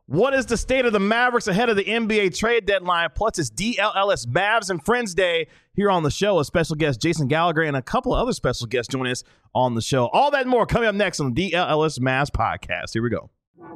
What is the state of the Mavericks ahead of the NBA trade deadline? Plus, it's DLLS Mavs and Friends Day here on the show. A special guest, Jason Gallagher, and a couple of other special guests joining us on the show. All that and more coming up next on the DLLS Mavs podcast. Here we go.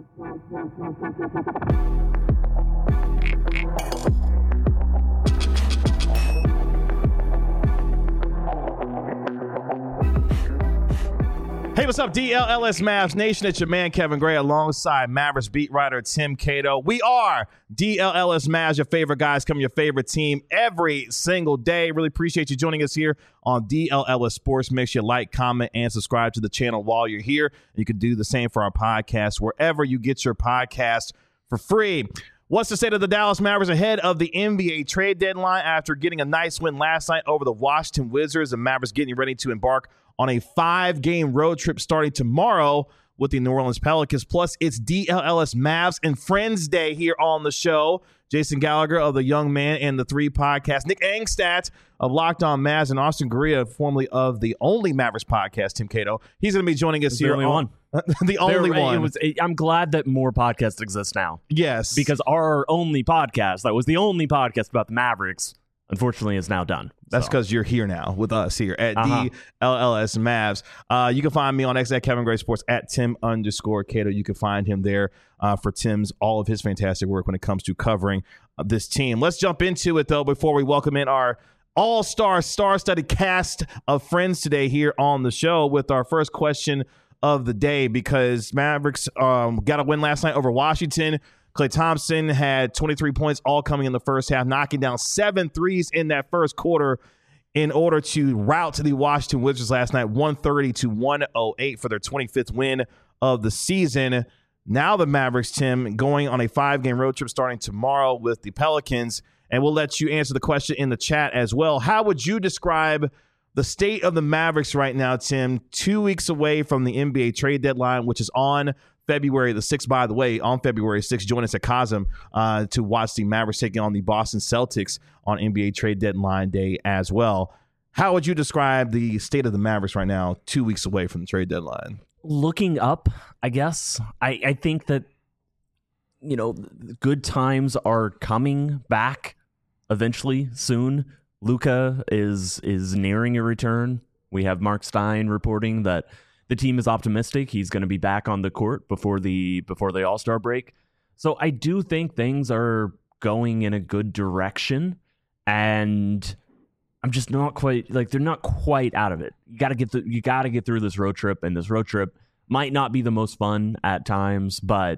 Hey, what's up, DLLS Mavs Nation? It's your man, Kevin Gray, alongside Mavericks beat writer Tim Cato. We are DLLS Mavs, your favorite guys, coming your favorite team every single day. Really appreciate you joining us here on DLLS Sports. Make sure you like, comment, and subscribe to the channel while you're here. You can do the same for our podcast wherever you get your podcast for free. What's the state of the Dallas Mavericks ahead of the NBA trade deadline after getting a nice win last night over the Washington Wizards? The Mavericks getting ready to embark on a 5-game road trip starting tomorrow with the New Orleans Pelicans. Plus, it's DLLS Mavs and Friends Day here on the show. Jason Gallagher of The Young Man and the Three podcast. Nick Angstadt of Locked On Mavs, and Austin Guerrilla, formerly of the Only Mavericks podcast, Tim Cato. He's going to be joining us here. The only one. The only one. I'm glad that more podcasts exist now. Yes. Because our only podcast, that was the only podcast about the Mavericks, unfortunately is now done. That's because you're here now with us here at DLLS Mavs. You can find me on X at Kevin Gray Sports at Tim_Cato. You can find him there for Tim's all of his fantastic work when it comes to covering this team. Let's jump into it, though, before we welcome in our all-star, star-studded cast of friends today here on the show with our first question of the day, because Mavericks got a win last night over Washington. Klay Thompson had 23 points, all coming in the first half, knocking down 7 threes in that first quarter in order to rout the Washington Wizards last night, 130-108 for their 25th win of the season. Now the Mavericks, Tim, going on a 5-game road trip starting tomorrow with the Pelicans, and we'll let you answer the question in the chat as well. How would you describe the state of the Mavericks right now, Tim, 2 weeks away from the NBA trade deadline, which is on February the 6th, by the way, on February 6th, join us at Cosm to watch the Mavericks taking on the Boston Celtics on NBA trade deadline day as well. How would you describe the state of the Mavericks right now, 2 weeks away from the trade deadline? Looking up, I guess. I think that, good times are coming back eventually, soon. Luka is nearing a return. We have Mark Stein reporting that the team is optimistic. He's going to be back on the court before the All-Star break. So I do think things are going in a good direction, and I'm just not quite they're not quite out of it. You got to get through this road trip, and this road trip might not be the most fun at times, but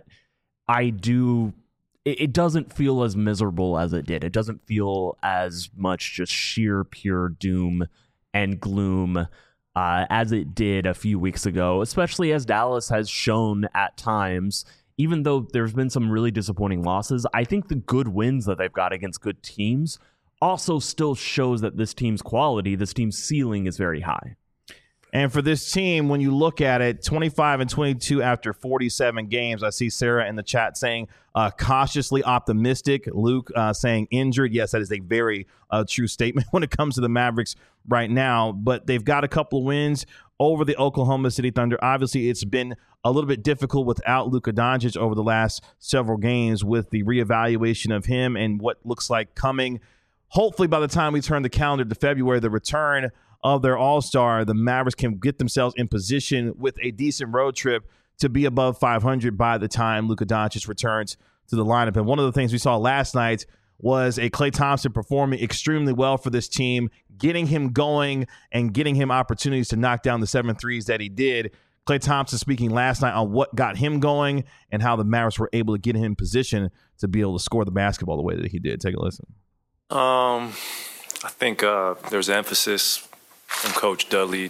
it doesn't feel as miserable as it did. It doesn't feel as much just sheer pure doom and gloom as it did a few weeks ago, especially as Dallas has shown at times. Even though there's been some really disappointing losses, I think the good wins that they've got against good teams also still shows that this team's quality, this team's ceiling is very high. And for this team, when you look at it, 25-22 after 47 games, I see Sarah in the chat saying cautiously optimistic. Luke saying injured. Yes, that is a very true statement when it comes to the Mavericks right now. But they've got a couple of wins over the Oklahoma City Thunder. Obviously, it's been a little bit difficult without Luka Doncic over the last several games with the reevaluation of him and what looks like coming. Hopefully, by the time we turn the calendar to February, the return of their all-star, the Mavericks can get themselves in position with a decent road trip to be above 500 by the time Luka Doncic returns to the lineup. And one of the things we saw last night was a Klay Thompson performing extremely well for this team, getting him going and getting him opportunities to knock down the 7 threes that he did. Klay Thompson speaking last night on what got him going and how the Mavericks were able to get him in position to be able to score the basketball the way that he did. Take a listen. I think there's emphasis from Coach Dudley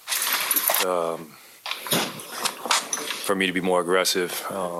for me to be more aggressive.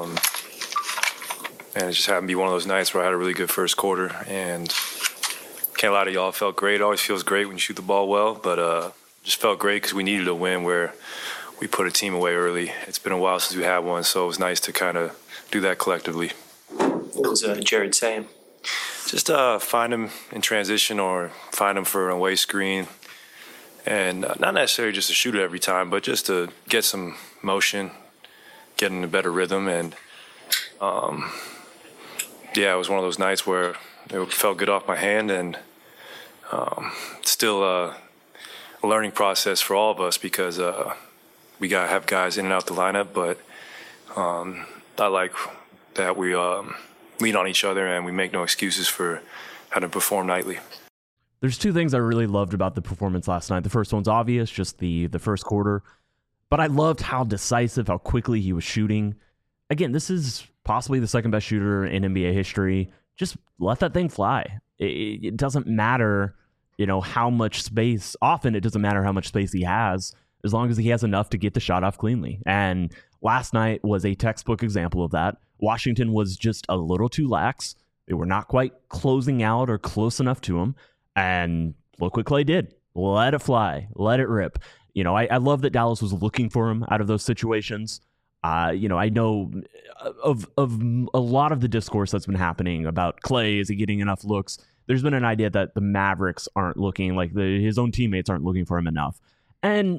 And it just happened to be one of those nights where I had a really good first quarter. And can't lie to y'all, it felt great. It always feels great when you shoot the ball well. But just felt great because we needed a win where we put a team away early. It's been a while since we had one, so it was nice to kind of do that collectively. What was Jared saying? Just find him in transition or find him for an away screen. And not necessarily just to shoot it every time, but just to get some motion, get in a better rhythm. And yeah, it was one of those nights where it felt good off my hand, and still a learning process for all of us because we got to have guys in and out the lineup, but I like that we lean on each other and we make no excuses for how to perform nightly. There's two things I really loved about the performance last night. The first one's obvious, just the first quarter. But I loved how decisive, how quickly he was shooting. Again, this is possibly the second best shooter in NBA history. Just let that thing fly. It doesn't matter, how much space. Often it doesn't matter how much space he has, as long as he has enough to get the shot off cleanly. And last night was a textbook example of that. Washington was just a little too lax. They were not quite closing out or close enough to him. And look what Klay did. Let it fly. Let it rip. I love that Dallas was looking for him out of those situations. I know of a lot of the discourse that's been happening about Klay. Is he getting enough looks? There's been an idea that the Mavericks aren't looking, like his own teammates aren't looking for him enough. And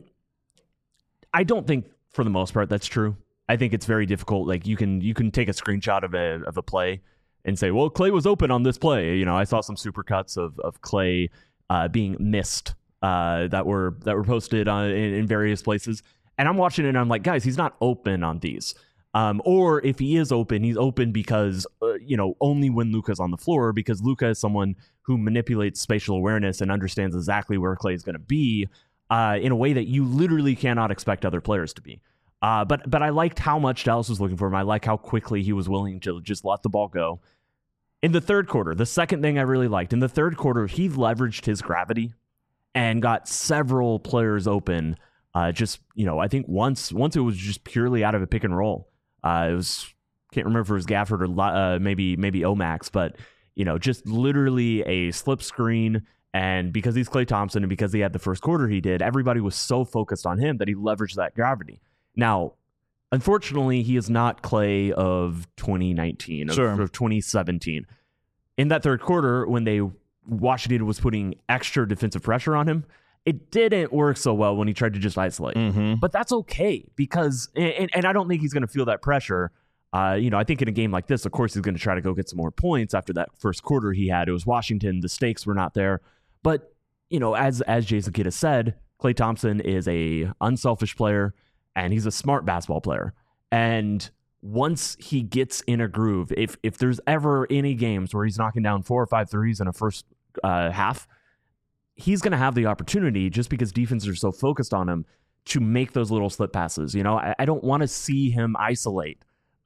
I don't think for the most part that's true. I think it's very difficult. Like you can take a screenshot of a play and say, well, Klay was open on this play. I saw some supercuts of Klay being missed that were posted in various places. And I'm watching it and I'm like, guys, he's not open on these. Or if he is open, he's open because, only when Luka's on the floor, because Luka is someone who manipulates spatial awareness and understands exactly where Klay is going to be in a way that you literally cannot expect other players to be. But I liked how much Dallas was looking for him. I like how quickly he was willing to just let the ball go. In the third quarter, the second thing I really liked, in the third quarter, he leveraged his gravity and got several players open. I think once it was just purely out of a pick and roll. Can't remember if it was Gafford or maybe Omax, but just literally a slip screen. And because he's Klay Thompson and because he had the first quarter he did, everybody was so focused on him that he leveraged that gravity. Now, unfortunately, he is not Klay of 2019, of 2017. In that third quarter, when Washington was putting extra defensive pressure on him, it didn't work so well when he tried to just isolate. Mm-hmm. But that's okay because, and I don't think he's going to feel that pressure. I think in a game like this, of course, he's going to try to go get some more points after that first quarter he had. It was Washington. The stakes were not there. But, as Jason Kidd has said, Klay Thompson is a unselfish player and he's a smart basketball player. And once he gets in a groove, if there's ever any games where he's knocking down 4 or 5 threes in a first half, he's going to have the opportunity, just because defenses are so focused on him, to make those little slip passes. I don't want to see him isolate.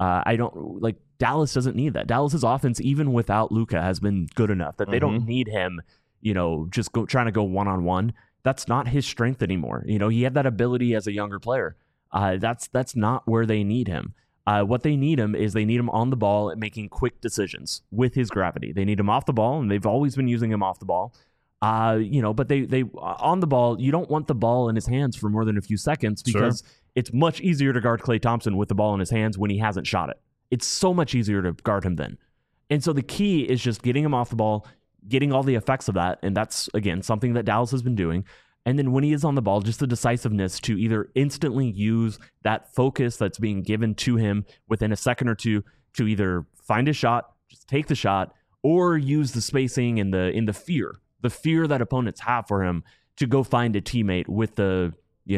Dallas doesn't need that. Dallas's offense, even without Luka, has been good enough that they don't need him, just trying to go one-on-one. That's not his strength anymore. He had that ability as a younger player. That's not where they need him. What they need him is they need him on the ball and making quick decisions with his gravity. They need him off the ball, and they've always been using him off the ball. But they on the ball, you don't want the ball in his hands for more than a few seconds because it's much easier to guard Klay Thompson with the ball in his hands when he hasn't shot it. It's so much easier to guard him then. And so the key is just getting him off the ball, getting all the effects of that. And that's, again, something that Dallas has been doing. And then when he is on the ball, just the decisiveness to either instantly use that focus that's being given to him within a second or two to either find a shot, just take the shot, or use the spacing and the fear that opponents have for him to go find a teammate with the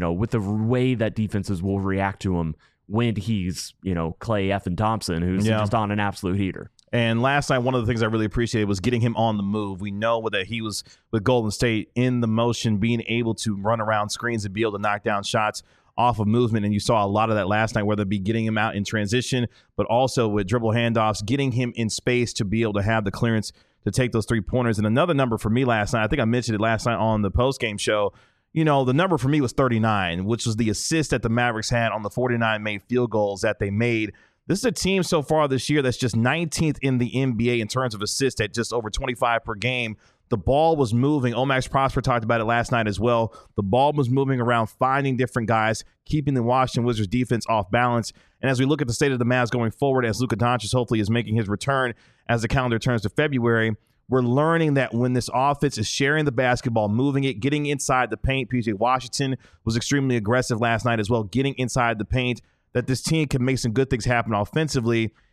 way that defenses will react to him when he's, Klay effing Thompson, who's just on an absolute heater. And last night, one of the things I really appreciated was getting him on the move. We know that he was with Golden State in the motion, being able to run around screens and be able to knock down shots off of movement. And you saw a lot of that last night, whether it be getting him out in transition, but also with dribble handoffs, getting him in space to be able to have the clearance to take those 3-pointers. And another number for me last night, I think I mentioned it last night on the postgame show, the number for me was 39, which was the assist that the Mavericks had on the 49 made field goals that they made. This is a team so far this year that's just 19th in the NBA in terms of assists at just over 25 per game. The ball was moving. Omax Prosper talked about it last night as well. The ball was moving around, finding different guys, keeping the Washington Wizards defense off balance. And as we look at the state of the Mavs going forward, as Luka Doncic hopefully is making his return as the calendar turns to February, we're learning that when this offense is sharing the basketball, moving it, getting inside the paint, PJ Washington was extremely aggressive last night as well, getting inside the paint, that this team can make some good things happen offensively.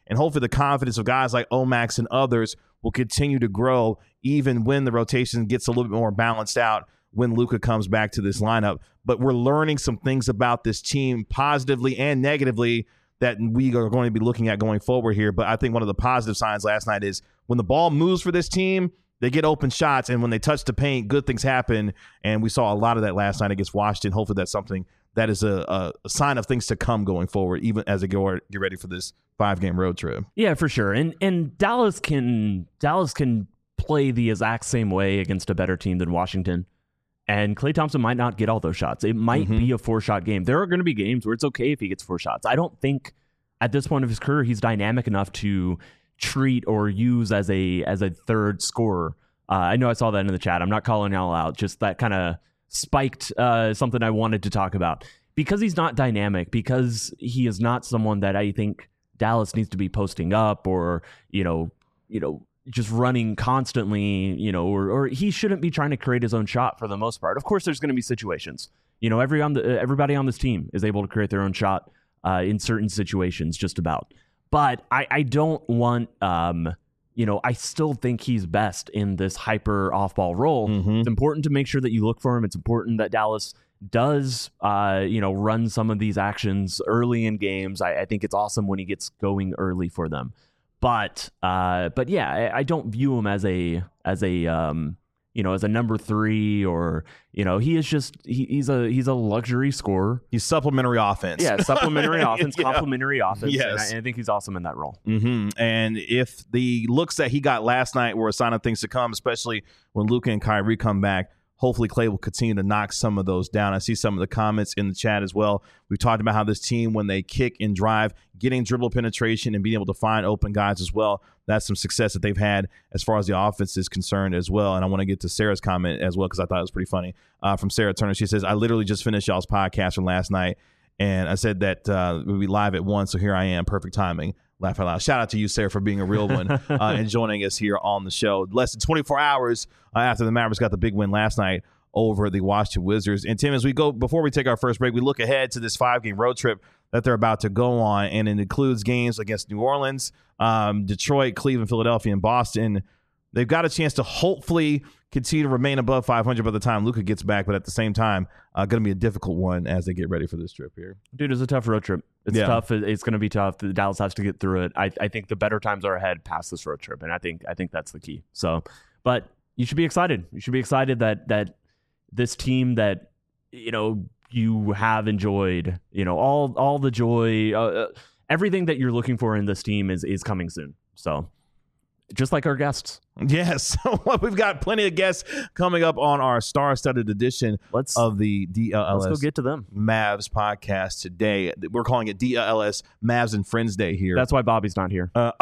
And hopefully the confidence of guys like Omax and others will continue to grow even when the rotation gets a little bit more balanced out when Luka comes back to this lineup. But we're learning some things about this team positively and negatively that we are going to be looking at going forward here. But I think one of the positive signs last night is when the ball moves for this team, they get open shots, and when they touch the paint, good things happen. And we saw a lot of that last night against Washington. Hopefully that's something that is a sign of things to come going forward, even as they get ready for this 5-game road trip. Yeah, for sure. And Dallas can play the exact same way against a better team than Washington. And Klay Thompson might not get all those shots. It might be a 4-shot game. There are going to be games where it's okay if he gets 4 shots. I don't think at this point of his career he's dynamic enough to treat or use as a third scorer. I know I saw that in the chat. I'm not calling y'all out. Just that kind of spiked something I wanted to talk about. Because he's not dynamic, because he is not someone that I think Dallas needs to be posting up or, just running constantly, or he shouldn't be trying to create his own shot for the most part. Of course, there's going to be situations. Everybody on this team is able to create their own shot in certain situations, just about. But I don't want, I still think he's best in this hyper off-ball role. It's important to make sure that you look for him. It's important that Dallas does, run some of these actions early in games. I think it's awesome when he gets going early for them. But yeah, I don't view him as a number 3 or, he is just, he's a luxury scorer. He's supplementary offense. Yeah, supplementary offense, complementary offense. Yes. And I think he's awesome in that role. And if the looks that he got last night were a sign of things to come, especially when Luka and Kyrie come back, hopefully Klay will continue to knock some of those down. I see some of the comments in the chat as well. We've talked about how this team, when they kick and drive, getting dribble penetration and being able to find open guys as well, that's some success that they've had as far as the offense is concerned as well. And I want to get to Sarah's comment as well because I thought it was pretty funny. From Sarah Turner, she says, I literally just finished y'all's podcast from last night, and I said that we'd be live at 1, so here I am. Perfect timing. Laugh out loud. Shout out to you, Sarah, for being a real one and joining us here on the show. Less than 24 hours after the Mavericks got the big win last night over the Washington Wizards. And Tim, as we go, before we take our first break, we look ahead to this 5-game road trip that they're about to go on, and it includes games against New Orleans, Detroit, Cleveland, Philadelphia, and Boston. They've got a chance to hopefully continue to remain above 500 by the time Luka gets back, but at the same time, going to be a difficult one as they get ready for this trip here. Dude, it's a tough road trip. It's tough. It's going to be tough. Dallas has to get through it. I think the better times are ahead past this road trip, and I think that's the key. So, but you should be excited. You should be excited that this team that you have enjoyed, all the joy, everything that you're looking for in this team is coming soon. So, just like our guests. Yes. We've got plenty of guests coming up on our star-studded edition of the DLS. Let's go get to them. Mavs podcast today. We're calling it DLS Mavs and Friends Day here. That's why Bobby's not here. Not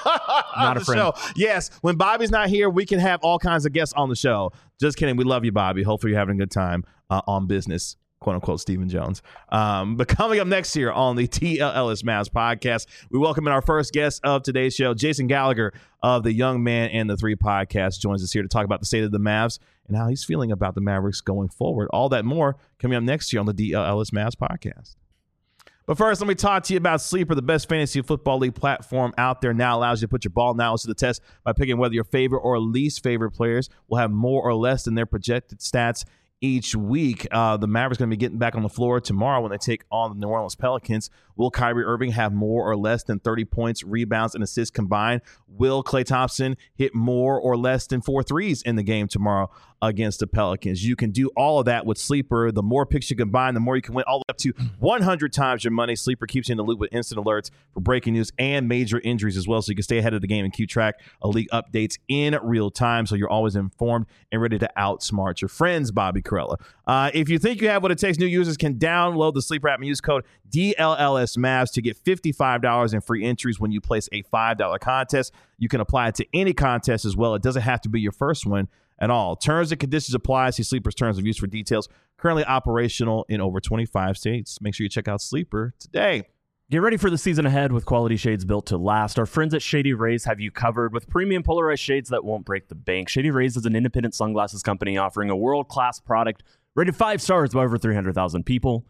a friend. Show. Yes. When Bobby's not here, we can have all kinds of guests on the show. Just kidding. We love you, Bobby. Hopefully you're having a good time on business. Quote unquote Stephen Jones. But coming up next year on the TLS Mavs podcast, we welcome in our first guest of today's show, Jason Gallagher of the Young Man and the 3 podcast, joins us here to talk about the state of the Mavs and how he's feeling about the Mavericks going forward. All that more coming up next year on the DLS Mavs podcast. But first, let me talk to you about Sleeper, the best fantasy football league platform out there. Now allows you to put your ball knowledge to the test by picking whether your favorite or least favorite players will have more or less than their projected stats each week. The Mavericks going to be getting back on the floor tomorrow when they take on the New Orleans Pelicans. Will Kyrie Irving have more or less than 30 points, rebounds, and assists combined? Will Klay Thompson hit more or less than 4 threes in the game tomorrow against the Pelicans? You can do all of that with Sleeper. The more picks you combine, the more you can win, all the way up to 100 times your money. Sleeper keeps you in the loop with instant alerts for breaking news and major injuries as well, so you can stay ahead of the game and keep track of league updates in real time, so you're always informed and ready to outsmart your friends. Bobby Carella. If you think you have what it takes, new users can download the Sleeper app and use code DLLS Mavs to get $55 in free entries when you place a $5 contest. You can apply it to any contest as well. It doesn't have to be your first one at all. Terms and conditions apply. See Sleeper's terms of use for details. Currently operational in over 25 states. Make sure you check out Sleeper today. Get ready for the season ahead with quality shades built to last. Our friends at Shady Rays have you covered with premium polarized shades that won't break the bank. Shady Rays is an independent sunglasses company offering a world-class product rated 5 stars by over 300,000 people.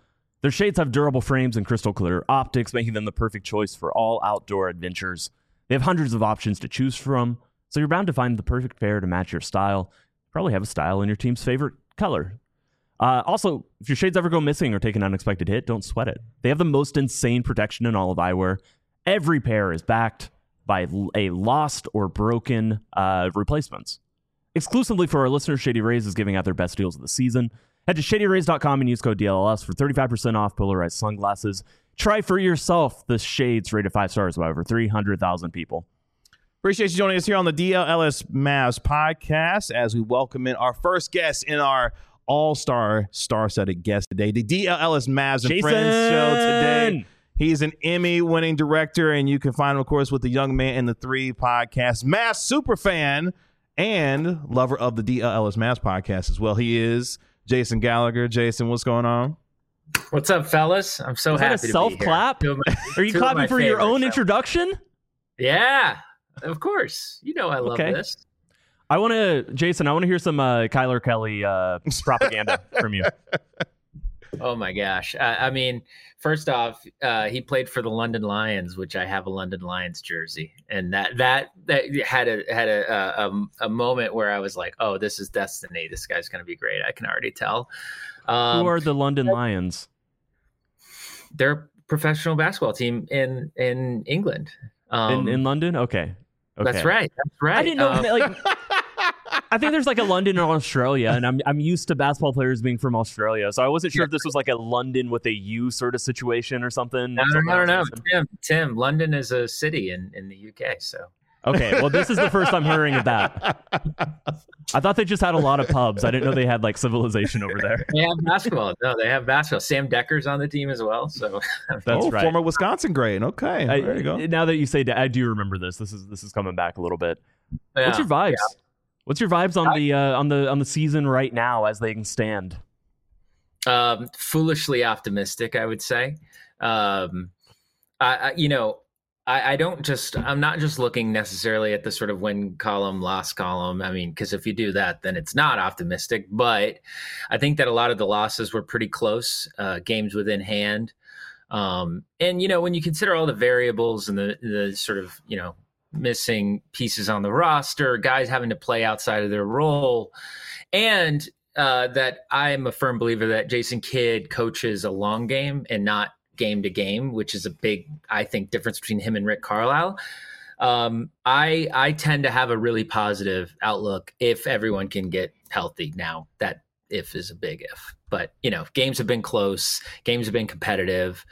Their shades have durable frames and crystal clear optics, making them the perfect choice for all outdoor adventures. They have hundreds of options to choose from, so you're bound to find the perfect pair to match your style. You probably have a style in your team's favorite color. Also, if your shades ever go missing or take an unexpected hit, don't sweat it. They have the most insane protection in all of eyewear. Every pair is backed by a lost or broken replacements. Exclusively for our listeners, Shady Rays is giving out their best deals of the season. Head to shadyrays.com and use code DLLS for 35% off polarized sunglasses. Try for yourself the shades rated 5 stars by over 300,000 people. Appreciate you joining us here on the DLLS Mavs podcast as we welcome in our first guest in our all-star star-studded guest today, the DLLS Mavs and Friends show today. He's an Emmy-winning director, and you can find him, of course, with the Young Man in the 3 podcast, Mavs superfan, and lover of the DLLS Mavs podcast as well. He is Jason Gallagher. Jason, what's going on? What's up, fellas? I'm so happy to be here. Self-clap? Are you clapping for your own introduction? Yeah, of course. You know I love this. Jason, I want to hear some Kyler Kelly propaganda from you. Oh my gosh. I mean, first off, he played for the London Lions, which I have a London Lions jersey. And that had a moment where I was like, oh, this is destiny. This guy's going to be great. I can already tell. Who are the London Lions? They're a professional basketball team in England. In London? Okay. That's right. I didn't know. I think there's like a London in Australia, and I'm used to basketball players being from Australia, so I wasn't sure if this was like a London with a U sort of situation or something. No. Tim, London is a city in the UK, so. Okay, well, this is the first I'm hearing of that. I thought they just had a lot of pubs. I didn't know they had like civilization over there. They have basketball. No, they have basketball. Sam Decker's on the team as well. So that's right. Former Wisconsin grade. Okay, there you go. Now that you say that, I do remember this. This is coming back a little bit. Yeah, what's your vibes? Yeah. What's your vibes on the season right now as they can stand? Foolishly optimistic, I would say. I'm not just looking necessarily at the sort of win column, loss column. I mean, because if you do that, then it's not optimistic. But I think that a lot of the losses were pretty close, games within hand. And, when you consider all the variables and the sort of, missing pieces on the roster, guys having to play outside of their role, and that I'm a firm believer that Jason Kidd coaches a long game and not game to game, which is a big, I think, difference between him and Rick Carlisle. I tend to have a really positive outlook if everyone can get healthy. Now that if is a big if, but games have been close, games have been competitive.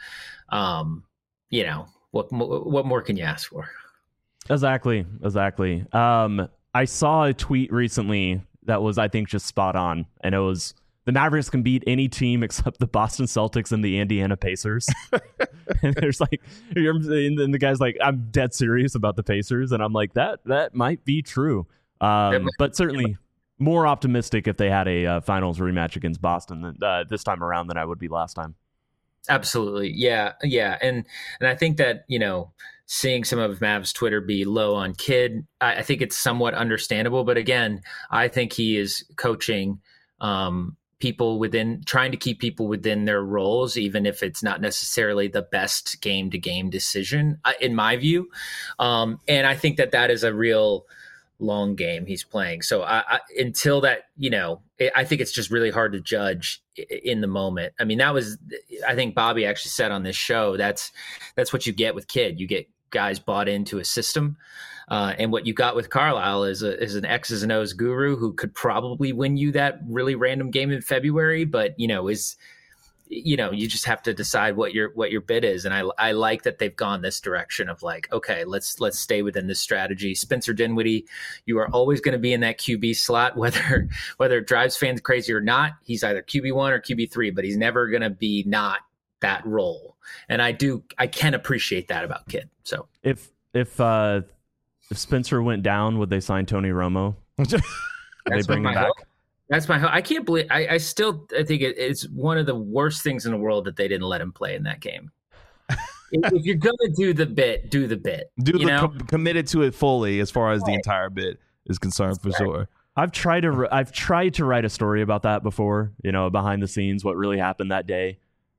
What more can you ask for? Exactly. I saw a tweet recently that was, I think, just spot on, and it was, the Mavericks can beat any team except the Boston Celtics and the Indiana Pacers. And there's like, and the guy's like, I'm dead serious about the Pacers. And I'm like, that might be true. But certainly more optimistic if they had a finals rematch against Boston this time around than I would be last time. Absolutely. Yeah. And I think that, seeing some of Mavs Twitter be low on Kidd, I think it's somewhat understandable. But again, I think he is coaching people trying to keep people within their roles, even if it's not necessarily the best game to game decision, in my view. And I think that is a real long game he's playing. So until that, I think it's just really hard to judge in the moment. I mean, I think Bobby actually said on this show, that's what you get with Kidd. You get guys bought into a system. And what you got with Carlisle is an X's and O's guru who could probably win you that really random game in February, but you just have to decide what your bid is. And I like that they've gone this direction of like, okay, let's stay within this strategy. Spencer Dinwiddie, you are always going to be in that QB slot, whether it drives fans crazy or not. He's either QB1 or QB3, but he's never going to be not that role. And I can appreciate that about Kidd. So if Spencer went down, would they sign Tony Romo? They bring him back? Hope. That's my hope. I can't believe. I think it's one of the worst things in the world that they didn't let him play in that game. If you're gonna do the bit, do the bit. Committed to it fully as far as the entire bit is concerned, for sure. I've tried to write a story about that before. Behind the scenes, what really happened that day.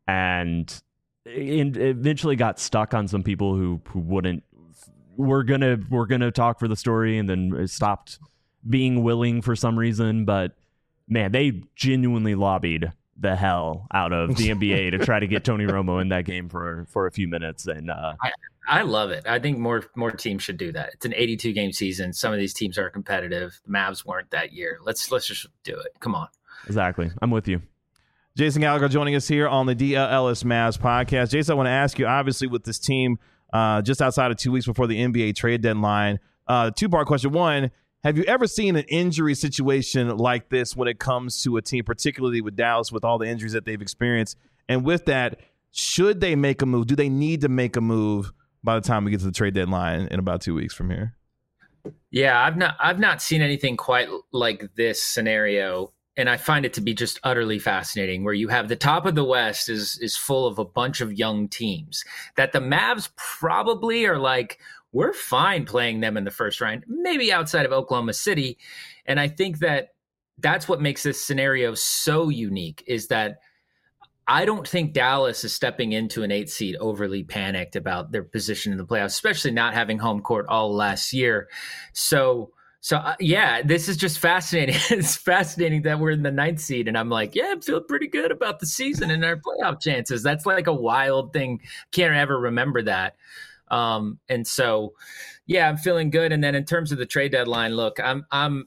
and eventually got stuck on some people who wouldn't. We're gonna talk for the story, and then stopped being willing for some reason. But man, they genuinely lobbied the hell out of the NBA to try to get Tony Romo in that game for a few minutes, and I love it. I think more teams should do that. It's an 82 game season. Some of these teams are competitive. The Mavs weren't that year. Let's just do it. Come on. Exactly. I'm with you. Jason Gallagher joining us here on the DLS Mavs podcast. Jason, I want to ask you, obviously, with this team just outside of 2 weeks before the NBA trade deadline, two-part question. One, have you ever seen an injury situation like this when it comes to a team, particularly with Dallas, with all the injuries that they've experienced? And with that, should they make a move? Do they need to make a move by the time we get to the trade deadline in about 2 weeks from here? Yeah, I've not seen anything quite like this scenario. And I find it to be just utterly fascinating, where you have the top of the West is full of a bunch of young teams that the Mavs probably are like, we're fine playing them in the first round, maybe outside of Oklahoma City. And I think that that's what makes this scenario so unique, is that I don't think Dallas is stepping into an 8 seed overly panicked about their position in the playoffs, especially not having home court all last year. So yeah, this is just fascinating. It's fascinating that we're in the 9th seed, and I'm like, yeah, I feel pretty good about the season and our playoff chances. That's like a wild thing. Can't ever remember that. And so, yeah, I'm feeling good. And then in terms of the trade deadline, look, I'm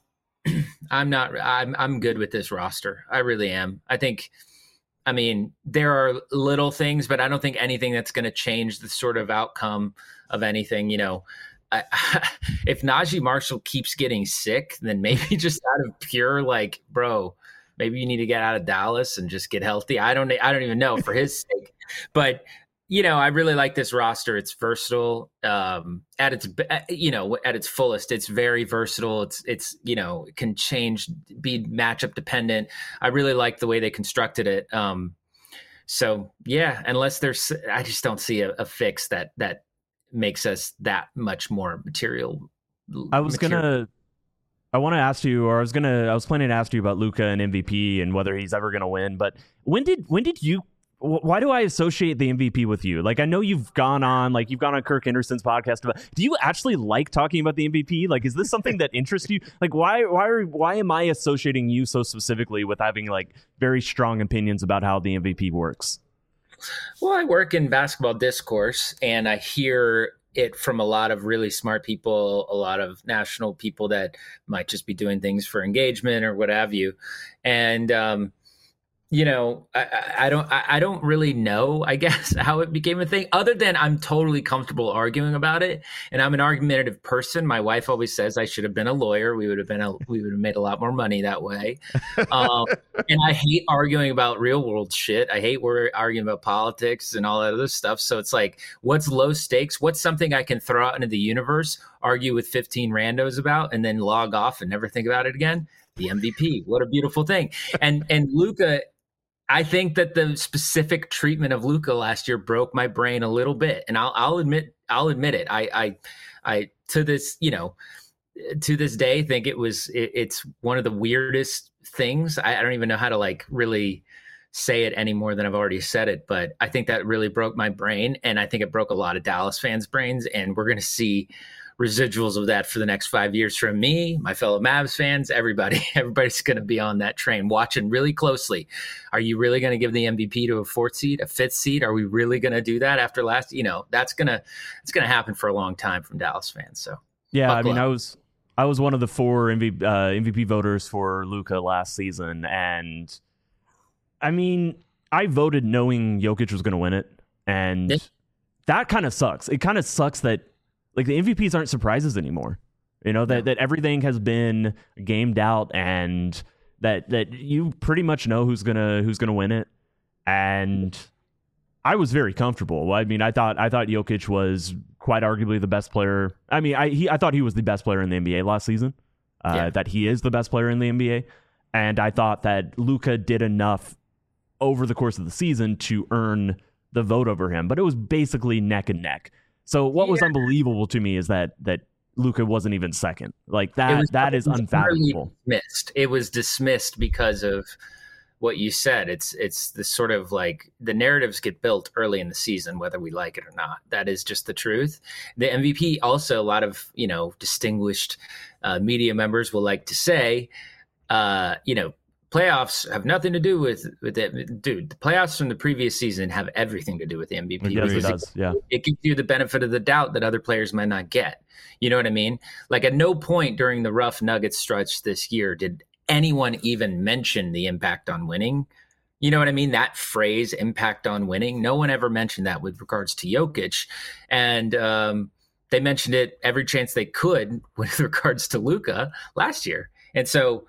good with this roster. I really am. I mean, there are little things, but I don't think anything that's going to change the sort of outcome of anything, you know. If Najee Marshall keeps getting sick, then maybe just out of pure like, bro, maybe you need to get out of Dallas and just get healthy. I don't even know, for his sake. But you know, I really like this roster. It's versatile at its fullest. It's very versatile. It's it can change, be matchup dependent. I really like the way they constructed it. So yeah, unless I just don't see a fix that makes us that much more material. I was planning to ask you about Luka and MVP and whether he's ever going to win. But why do I associate the MVP with you? Like, I know you've gone on Kirk Henderson's podcast do you actually like talking about the MVP? Like, is this something that interests you? Like, why am I associating you so specifically with having like very strong opinions about how the MVP works? Well, I work in basketball discourse, and I hear it from a lot of really smart people, a lot of national people that might just be doing things for engagement or what have you. And, I don't really know, I guess, how it became a thing, other than I'm totally comfortable arguing about it. And I'm an argumentative person. My wife always says I should have been a lawyer. We would have made a lot more money that way. And I hate arguing about real world shit. I hate arguing about politics and all that other stuff. So it's like, what's low stakes? What's something I can throw out into the universe, argue with 15 randos about, and then log off and never think about it again? The MVP. What a beautiful thing. And Luka, I think that the specific treatment of Luka last year broke my brain a little bit, and I'll admit it. I to this day think it's one of the weirdest things. I don't even know how to like really say it any more than I've already said it, but I think that really broke my brain, and I think it broke a lot of Dallas fans' brains, and we're going to see residuals of that for the next 5 years from me, my fellow Mavs fans, everybody's going to be on that train watching really closely. Are you really going to give the MVP to a 4th seed, a 5th seed? Are we really going to do that after last? It's going to happen for a long time from Dallas fans. So yeah, I mean, I was one of the 4 MVP voters for Luka last season, and I mean, I voted knowing Jokic was going to win it, and that kind of sucks. It kind of sucks that like the MVPs aren't surprises anymore. That everything has been gamed out, and that you pretty much know who's gonna win it. And I was very comfortable. I mean, I thought Jokic was quite arguably the best player. I mean, I thought he was the best player in the NBA last season. That he is the best player in the NBA, and I thought that Luka did enough over the course of the season to earn the vote over him. But it was basically neck and neck. So what was unbelievable to me is that Luka wasn't even second. Like that is unfathomable. Dismissed. It was dismissed because of what you said. It's the sort of like the narratives get built early in the season, whether we like it or not. That is just the truth. The MVP also, a lot of, distinguished media members will like to say, playoffs have nothing to do with it. Dude, the playoffs from the previous season have everything to do with the MVP. Yes, it does. Yeah. It gives you the benefit of the doubt that other players might not get. You know what I mean? Like at no point during the rough Nuggets stretch this year did anyone even mention the impact on winning. You know what I mean? That phrase, impact on winning. No one ever mentioned that with regards to Jokic. And they mentioned it every chance they could with regards to Luka last year. And so,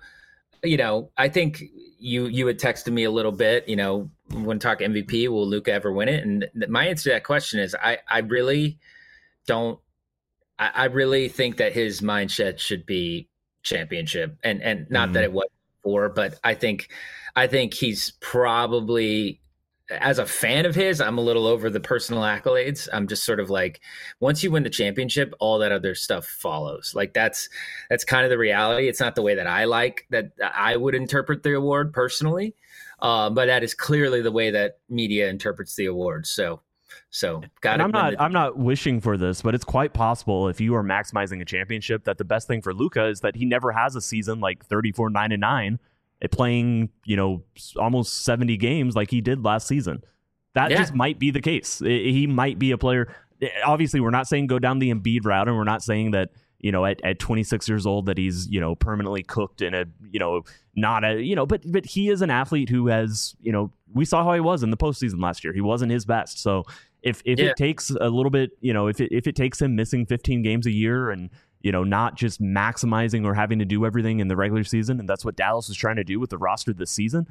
I think you had texted me a little bit, when talk MVP, will Luka ever win it? And my answer to that question is I really don't. I really think that his mindset should be championship, and not that it was before, but I think he's probably, as a fan of his, I'm a little over the personal accolades. I'm just sort of like, once you win the championship, all that other stuff follows. Like that's kind of the reality. It's not the way that I would interpret the award personally, but that is clearly the way that media interprets the award. So I'm not wishing for this, but it's quite possible if you are maximizing a championship that the best thing for Luka is that he never has a season like 34-9-9. Playing, almost 70 games like he did last season. That just might be the case. He might be a player. Obviously, we're not saying go down the Embiid route, and we're not saying that, at 26 years old that he's, permanently cooked in a, not a, but he is an athlete who has, we saw how he was in the postseason last year. He wasn't his best. So if it takes a little bit, if it takes him missing 15 games a year and, not just maximizing or having to do everything in the regular season. And that's what Dallas is trying to do with the roster this season.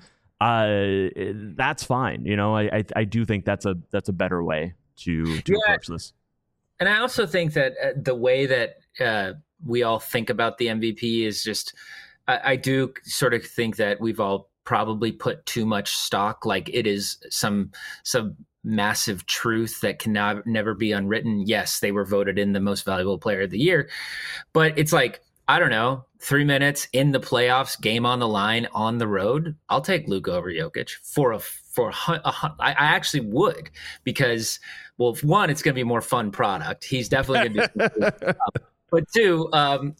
That's fine. I do think that's a better way to approach this. And I also think that the way that we all think about the MVP is just, I do sort of think that we've all probably put too much stock, like it is some massive truth that can never be unwritten. Yes, they were voted in the most valuable player of the year, but it's like, I don't know, 3 minutes in the playoffs, game on the line on the road. I'll take Luka over Jokic I actually would, because, well, one, it's going to be a more fun product. He's definitely going to do but two,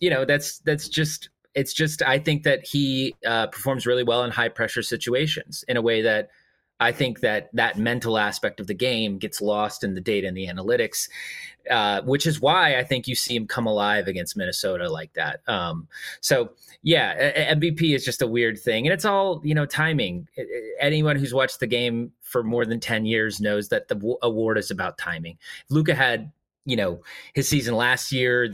it's just, I think that he performs really well in high pressure situations in a way that I think that mental aspect of the game gets lost in the data and the analytics, which is why I think you see him come alive against Minnesota like that. So yeah, MVP is just a weird thing, and it's all, timing. Anyone who's watched the game for more than 10 years knows that the award is about timing. If Luka had, his season last year,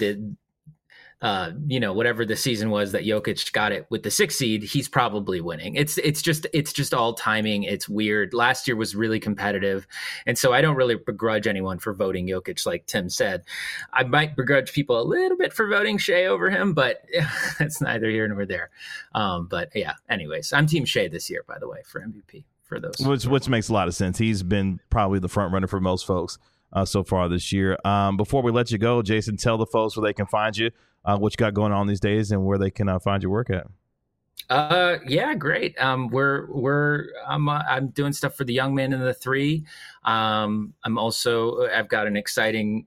whatever the season was that Jokic got it with the 6th seed, he's probably winning. It's just all timing. It's weird. Last year was really competitive. And so I don't really begrudge anyone for voting Jokic, like Tim said. I might begrudge people a little bit for voting Shea over him, but it's neither here nor there. But yeah, anyways, I'm Team Shea this year, by the way, for MVP for those. Which makes a lot of sense. He's been probably the front runner for most folks so far this year. Before we let you go, Jason, tell the folks where they can find you. What you got going on these days, and where they can find your work at. Yeah, great. I'm doing stuff for the Young Man and the Three. I've got an exciting,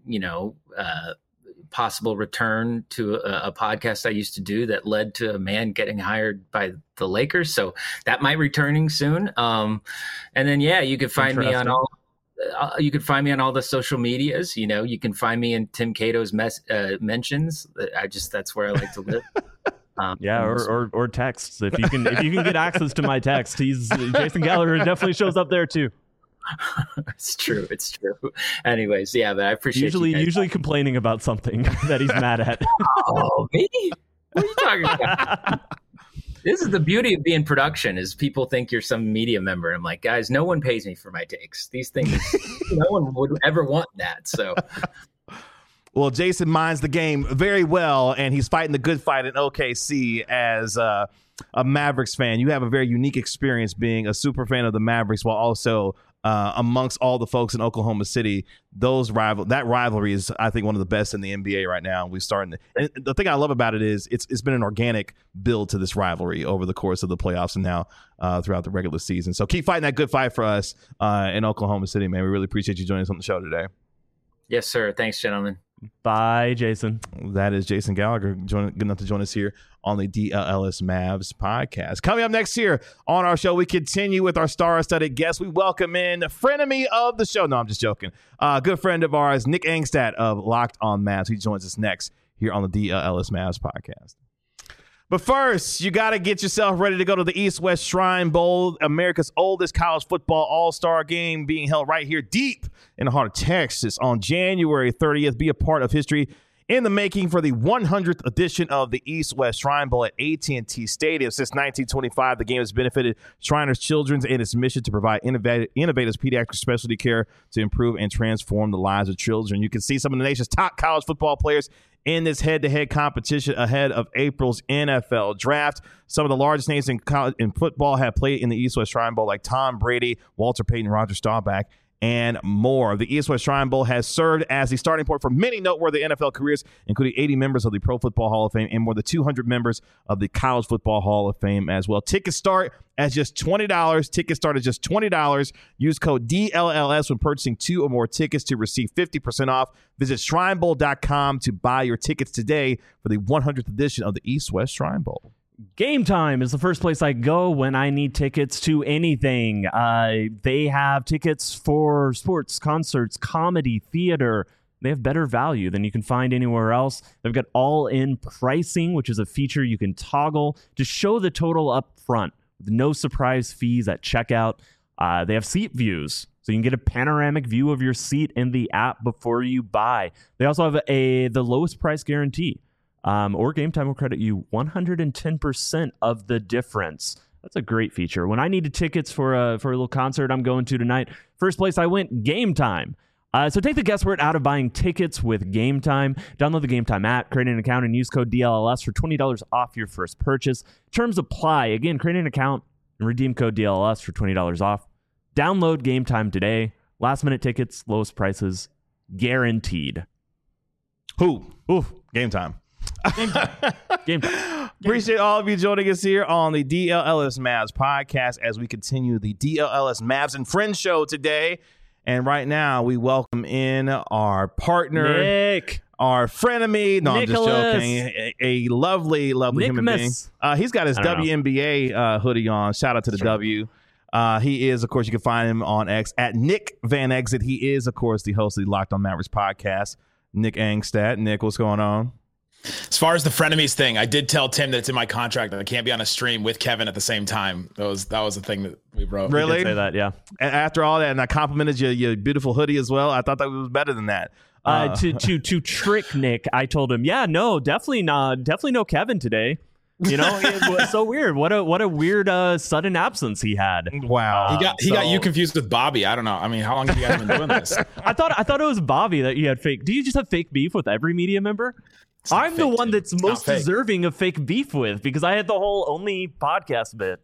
possible return to a podcast I used to do that led to a man getting hired by the Lakers. So that might be returning soon. And then, you can find me on all. You can find me on all the social medias. You can find me in Tim Cato's mentions. That's where I like to live. Or texts. If you can get access to my text, Jason Gallagher definitely shows up there too. It's true. Anyways, but I appreciate usually complaining about something that he's mad at. Oh, me? What are you talking about? This is the beauty of being production, is people think you're some media member. I'm like, guys, no one pays me for my takes. These things, no one would ever want that. So, well, Jason minds the game very well, and he's fighting the good fight in OKC as a Mavericks fan. You have a very unique experience being a super fan of the Mavericks while also amongst all the folks in Oklahoma City, that rivalry is, I think, one of the best in the NBA right now. And the thing I love about it is it's been an organic build to this rivalry over the course of the playoffs and now throughout the regular season. So keep fighting that good fight for us in Oklahoma City, man. We really appreciate you joining us on the show today. Yes, sir. Thanks, gentlemen. Bye, Jason. That is Jason Gallagher, good enough to join us here on the DLS Mavs podcast. Coming up next here on our show, we continue with our star-studded guests. We welcome in the frenemy of the show. No, I'm just joking. Good friend of ours, Nick Angstadt of Locked on Mavs. He joins us next here on the DLS Mavs podcast. But first, you got to get yourself ready to go to the East-West Shrine Bowl, America's oldest college football all-star game being held right here deep in the heart of Texas on January 30th. Be a part of history in the making for the 100th edition of the East-West Shrine Bowl at AT&T Stadium. Since 1925, the game has benefited Shriners Children's and its mission to provide innovative pediatric specialty care to improve and transform the lives of children. You can see some of the nation's top college football players in this head-to-head competition ahead of April's NFL draft. Some of the largest names in football have played in the East-West Shrine Bowl, like Tom Brady, Walter Payton, Roger Staubach, and more. The East-West Shrine Bowl has served as the starting point for many noteworthy NFL careers, including 80 members of the Pro Football Hall of Fame and more than 200 members of the College Football Hall of Fame as well. Tickets start at just $20. Tickets start at just $20. Use code DLLS when purchasing 2 or more tickets to receive 50% off. Visit ShrineBowl.com to buy your tickets today for the 100th edition of the East-West Shrine Bowl. Game Time is the first place I go when I need tickets to anything. They have tickets for sports, concerts, comedy, theater. They have better value than you can find anywhere else. They've got all-in pricing, which is a feature you can toggle to show the total up front with no surprise fees at checkout. They have seat views, so you can get a panoramic view of your seat in the app before you buy. They also have the lowest price guarantee. Or Game Time will credit you 110% of the difference. That's a great feature. When I needed tickets for a little concert I'm going to tonight, first place I went, Game Time. So take the guesswork out of buying tickets with Game Time. Download the Game Time app, create an account, and use code DLLS for $20 off your first purchase. Terms apply. Again, create an account and redeem code DLLS for $20 off. Download Game Time today. Last minute tickets, lowest prices, guaranteed. Game Time. Game time. Appreciate all of you joining us here on the DLLS Mavs podcast as we continue the DLLS Mavs and Friends show today. And right now, we welcome in our partner, Nick, our frenemy. No, Nicholas. I'm just joking. A lovely human being. He's got his WNBA hoodie on. Shout out to the W. He is, of course, you can find him on X at Nick Van Exit. He is, of course, the host of the Locked on Mavericks podcast. Nick Angstadt. Nick, what's going on? As far as the frenemies thing, I did tell Tim that it's in my contract that I can't be on a stream with Kevin at the same time. That was the thing that we wrote. Really? We did say that, yeah. And after all that, and I complimented your beautiful hoodie as well. I thought that was better than that. To trick Nick, I told him, yeah, no, definitely no Kevin today. You know, it was so weird. What a weird sudden absence he had. Wow. He got you confused with Bobby. I don't know. I mean, how long have you guys been doing this? I thought it was Bobby that you had fake. Do you just have fake beef with every media member? I'm the one that's most deserving of fake beef with because I had the whole only podcast bit.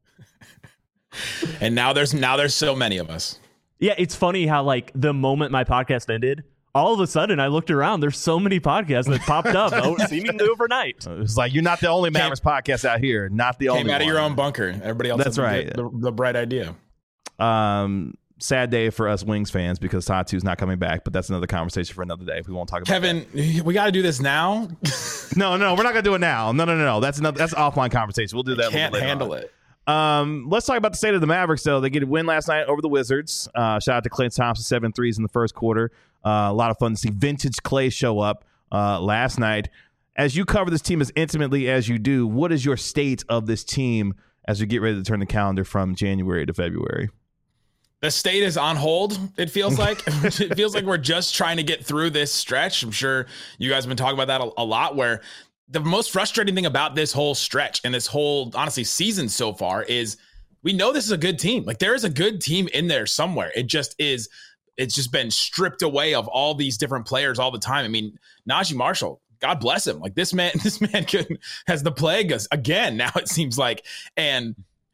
And now there's so many of us. Yeah, it's funny how like the moment my podcast ended, all of a sudden I looked around. There's so many podcasts that popped up seemingly overnight. It's like you're not the only Mavericks podcast out here. Not the only one. Came out of your own bunker. Everybody else. That's right. The bright idea. Sad day for us Wings fans because Tatu's not coming back, but that's another conversation for another day. We won't talk about Kevin, we got to do this now. No, we're not gonna do it now. No. That's offline conversation. We'll do that. Can't handle it. Let's talk about the state of the Mavericks, though. They get a win last night over the Wizards. Shout out to Klay Thompson, 7 threes in the first quarter. A lot of fun to see vintage Klay show up last night. As you cover this team as intimately as you do, what is your state of this team as we get ready to turn the calendar from January to February? The state is on hold, it feels like. It feels like we're just trying to get through this stretch. I'm sure you guys have been talking about that a lot, where the most frustrating thing about this whole stretch and this whole, honestly, season so far is we know this is a good team. Like, there is a good team in there somewhere. It's just been stripped away of all these different players all the time. I mean, Najee Marshall, God bless him. Like, this man has the plague again now, it seems like. And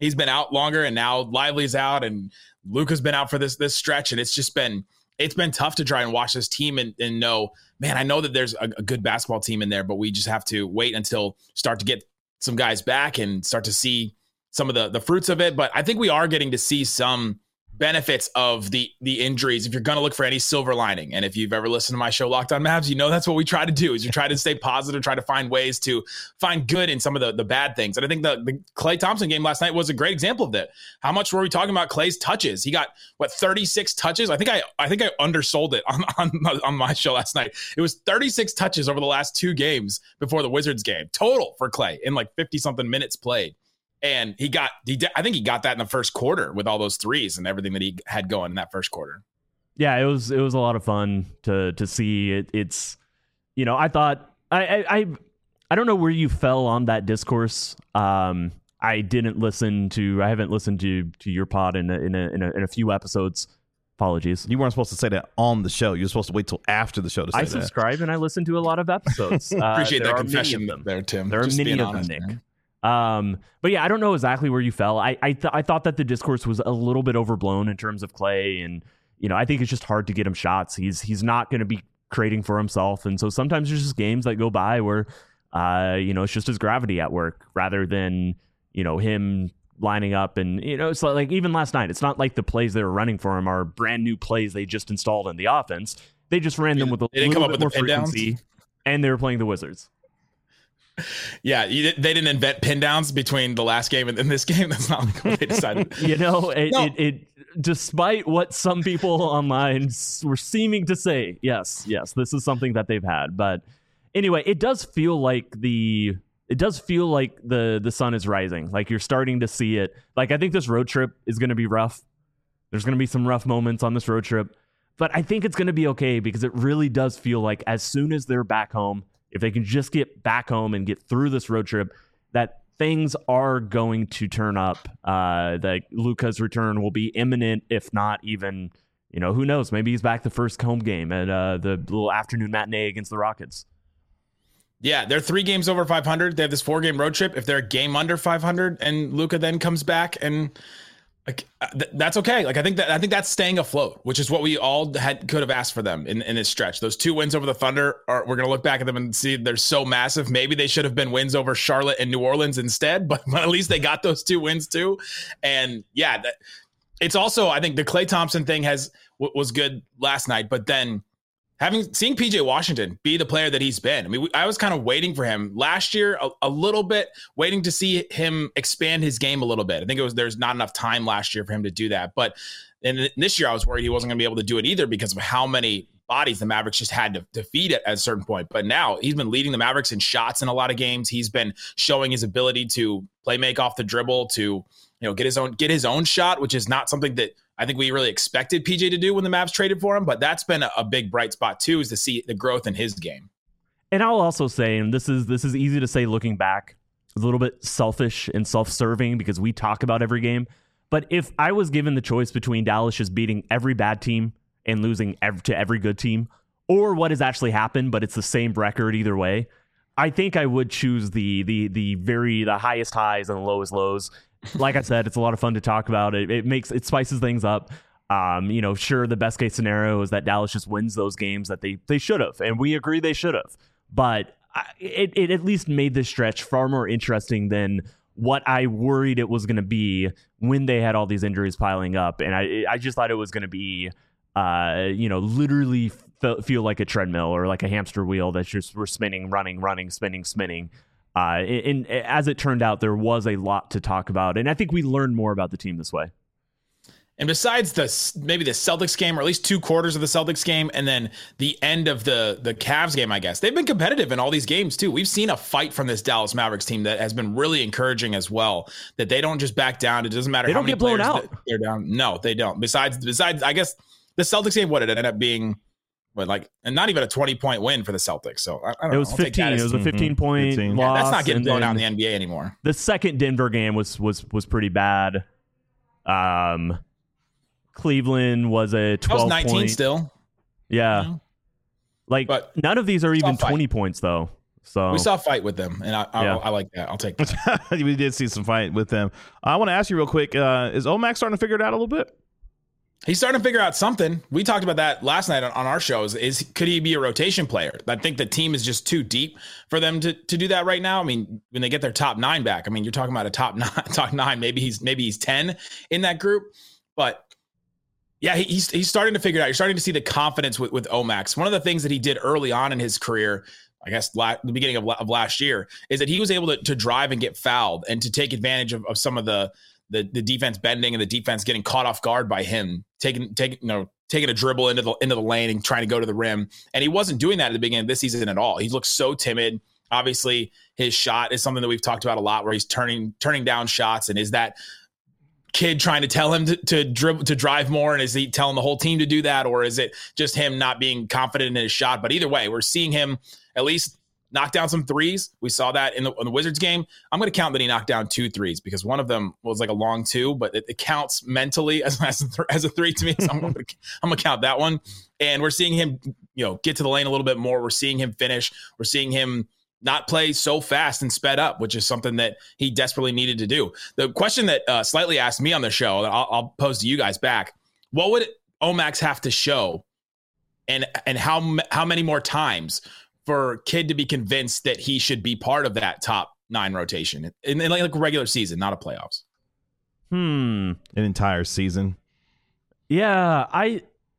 he's been out longer, and now Lively's out, and Luka's been out for this stretch, and it's been tough to try and watch this team and know, man, I know that there's a good basketball team in there, but we just have to wait until start to get some guys back and start to see some of the fruits of it. But I think we are getting to see some benefits of the injuries if you're going to look for any silver lining. And if you've ever listened to my show Locked On Mavs, you know that's what we try to do, is you try to stay positive, try to find ways to find good in some of the bad things. And I think the Klay Thompson game last night was a great example of that. How much were we talking about Klay's touches? He got 36 touches. I think I undersold it on my show last night. It was 36 touches over the last 2 games before the Wizards game total for Klay in like 50 something minutes played. And I think he got that in the first quarter with all those threes and everything that he had going in that first quarter. Yeah, it was a lot of fun to see it. It's, I thought I don't know where you fell on that discourse. I haven't listened to your pod in a few episodes. Apologies. You weren't supposed to say that on the show. You were supposed to wait till after the show to say that. I subscribe and I listen to a lot of episodes. Appreciate that confession there, Tim. There are many of them, Nick. But yeah, I don't know exactly where you fell. I thought that the discourse was a little bit overblown in terms of Klay, and I think it's just hard to get him shots. He's not going to be creating for himself, and so sometimes there's just games that go by where it's just his gravity at work rather than him lining up. And it's like even last night, it's not like the plays they were running for him are brand new plays they just installed in the offense. They just ran them with a little bit more frequency, and they were playing the Wizards. Yeah, they didn't invent pin downs between the last game and this game. That's not like what they decided. It despite what some people online were seeming to say, yes, this is something that they've had. But anyway, it does feel like the sun is rising. Like you're starting to see it. Like I think this road trip is going to be rough. There's going to be some rough moments on this road trip, but I think it's going to be okay because it really does feel like as soon as they're back home, if they can just get back home and get through this road trip, that things are going to turn up. That Luka's return will be imminent, if not even, who knows? Maybe he's back the first home game at the little afternoon matinee against the Rockets. Yeah, they're 3 games over 500. They have this 4-game road trip. If they're a game under 500 and Luka then comes back and that's okay. Like I think that's staying afloat, which is what we all could have asked for them in this stretch. Those 2 wins over the Thunder we're going to look back at them and see they're so massive. Maybe they should have been wins over Charlotte and New Orleans instead, but at least they got those 2 wins too. And yeah, it's also, I think the Klay Thompson thing was good last night, but then seeing PJ Washington be the player that he's been. I mean, I was kind of waiting for him last year a little bit, waiting to see him expand his game a little bit. I think there's not enough time last year for him to do that. But in this year, I was worried he wasn't going to be able to do it either because of how many bodies the Mavericks just had to feed at a certain point. But now he's been leading the Mavericks in shots in a lot of games. He's been showing his ability to play make off the dribble, to get his own shot, which is not something that I think we really expected PJ to do when the Mavs traded for him, but that's been a big bright spot too, is to see the growth in his game. And I'll also say, and this is easy to say looking back, a little bit selfish and self-serving because we talk about every game, but if I was given the choice between Dallas just beating every bad team and losing to every good team, or what has actually happened, but it's the same record either way, I think I would choose the highest highs and the lowest lows. Like I said, it's a lot of fun to talk about. It spices things up. Sure, the best case scenario is that Dallas just wins those games that they should have, and we agree they should have. But it at least made this stretch far more interesting than what I worried it was going to be when they had all these injuries piling up. And I just thought it was going to be, literally feel like a treadmill or like a hamster wheel that's just we're spinning, running, spinning. And as it turned out, there was a lot to talk about, and I think we learned more about the team this way. And besides maybe the Celtics game, or at least 2 quarters of the Celtics game, and then the end of the Cavs game, I guess they've been competitive in all these games too. We've seen a fight from this Dallas Mavericks team that has been really encouraging as well. That they don't just back down. It doesn't matter how many players they're down. No, they don't. Besides, I guess the Celtics game, what did it end up being? But and not even a 20-point win for the Celtics. So I don't know. It was 15. It was a 15-point loss. Yeah, that's not getting blown out in the NBA anymore. The second Denver game was pretty bad. Cleveland was a 12 that was 19 point. Still. Yeah. But none of these are even 20 points though. So we saw a fight with them, and I like that. I'll take that. We did see some fight with them. I want to ask you real quick, is Omax starting to figure it out a little bit? He's starting to figure out something. We talked about that last night on our shows. Could he be a rotation player? I think the team is just too deep for them to do that right now. I mean, when they get their top 9 back, I mean, you're talking about a top nine. Maybe he's 10 in that group. But yeah, he's starting to figure it out. You're starting to see the confidence with Omax. One of the things that he did early on in his career, I guess the beginning of last year, is that he was able to drive and get fouled and to take advantage of some of the defense bending and the defense getting caught off guard by him, taking a dribble into the lane and trying to go to the rim. And he wasn't doing that at the beginning of this season at all. He looked so timid. Obviously, his shot is something that we've talked about a lot, where he's turning down shots. And is that kid trying to tell him to drive more? And is he telling the whole team to do that? Or is it just him not being confident in his shot? But either way, we're seeing him at least knock down some threes. We saw that in the Wizards game. I'm going to count that he knocked down 2 threes because one of them was like a long 2, but it counts mentally as a 3 to me. So I'm going to count that one. And we're seeing him, get to the lane a little bit more. We're seeing him finish. We're seeing him not play so fast and sped up, which is something that he desperately needed to do. The question that Slightly asked me on the show, that I'll pose to you guys back: what would Omax have to show, and how many more times for Kidd to be convinced that he should be part of that top 9 rotation in like a regular season, not a playoffs? An entire season. Yeah,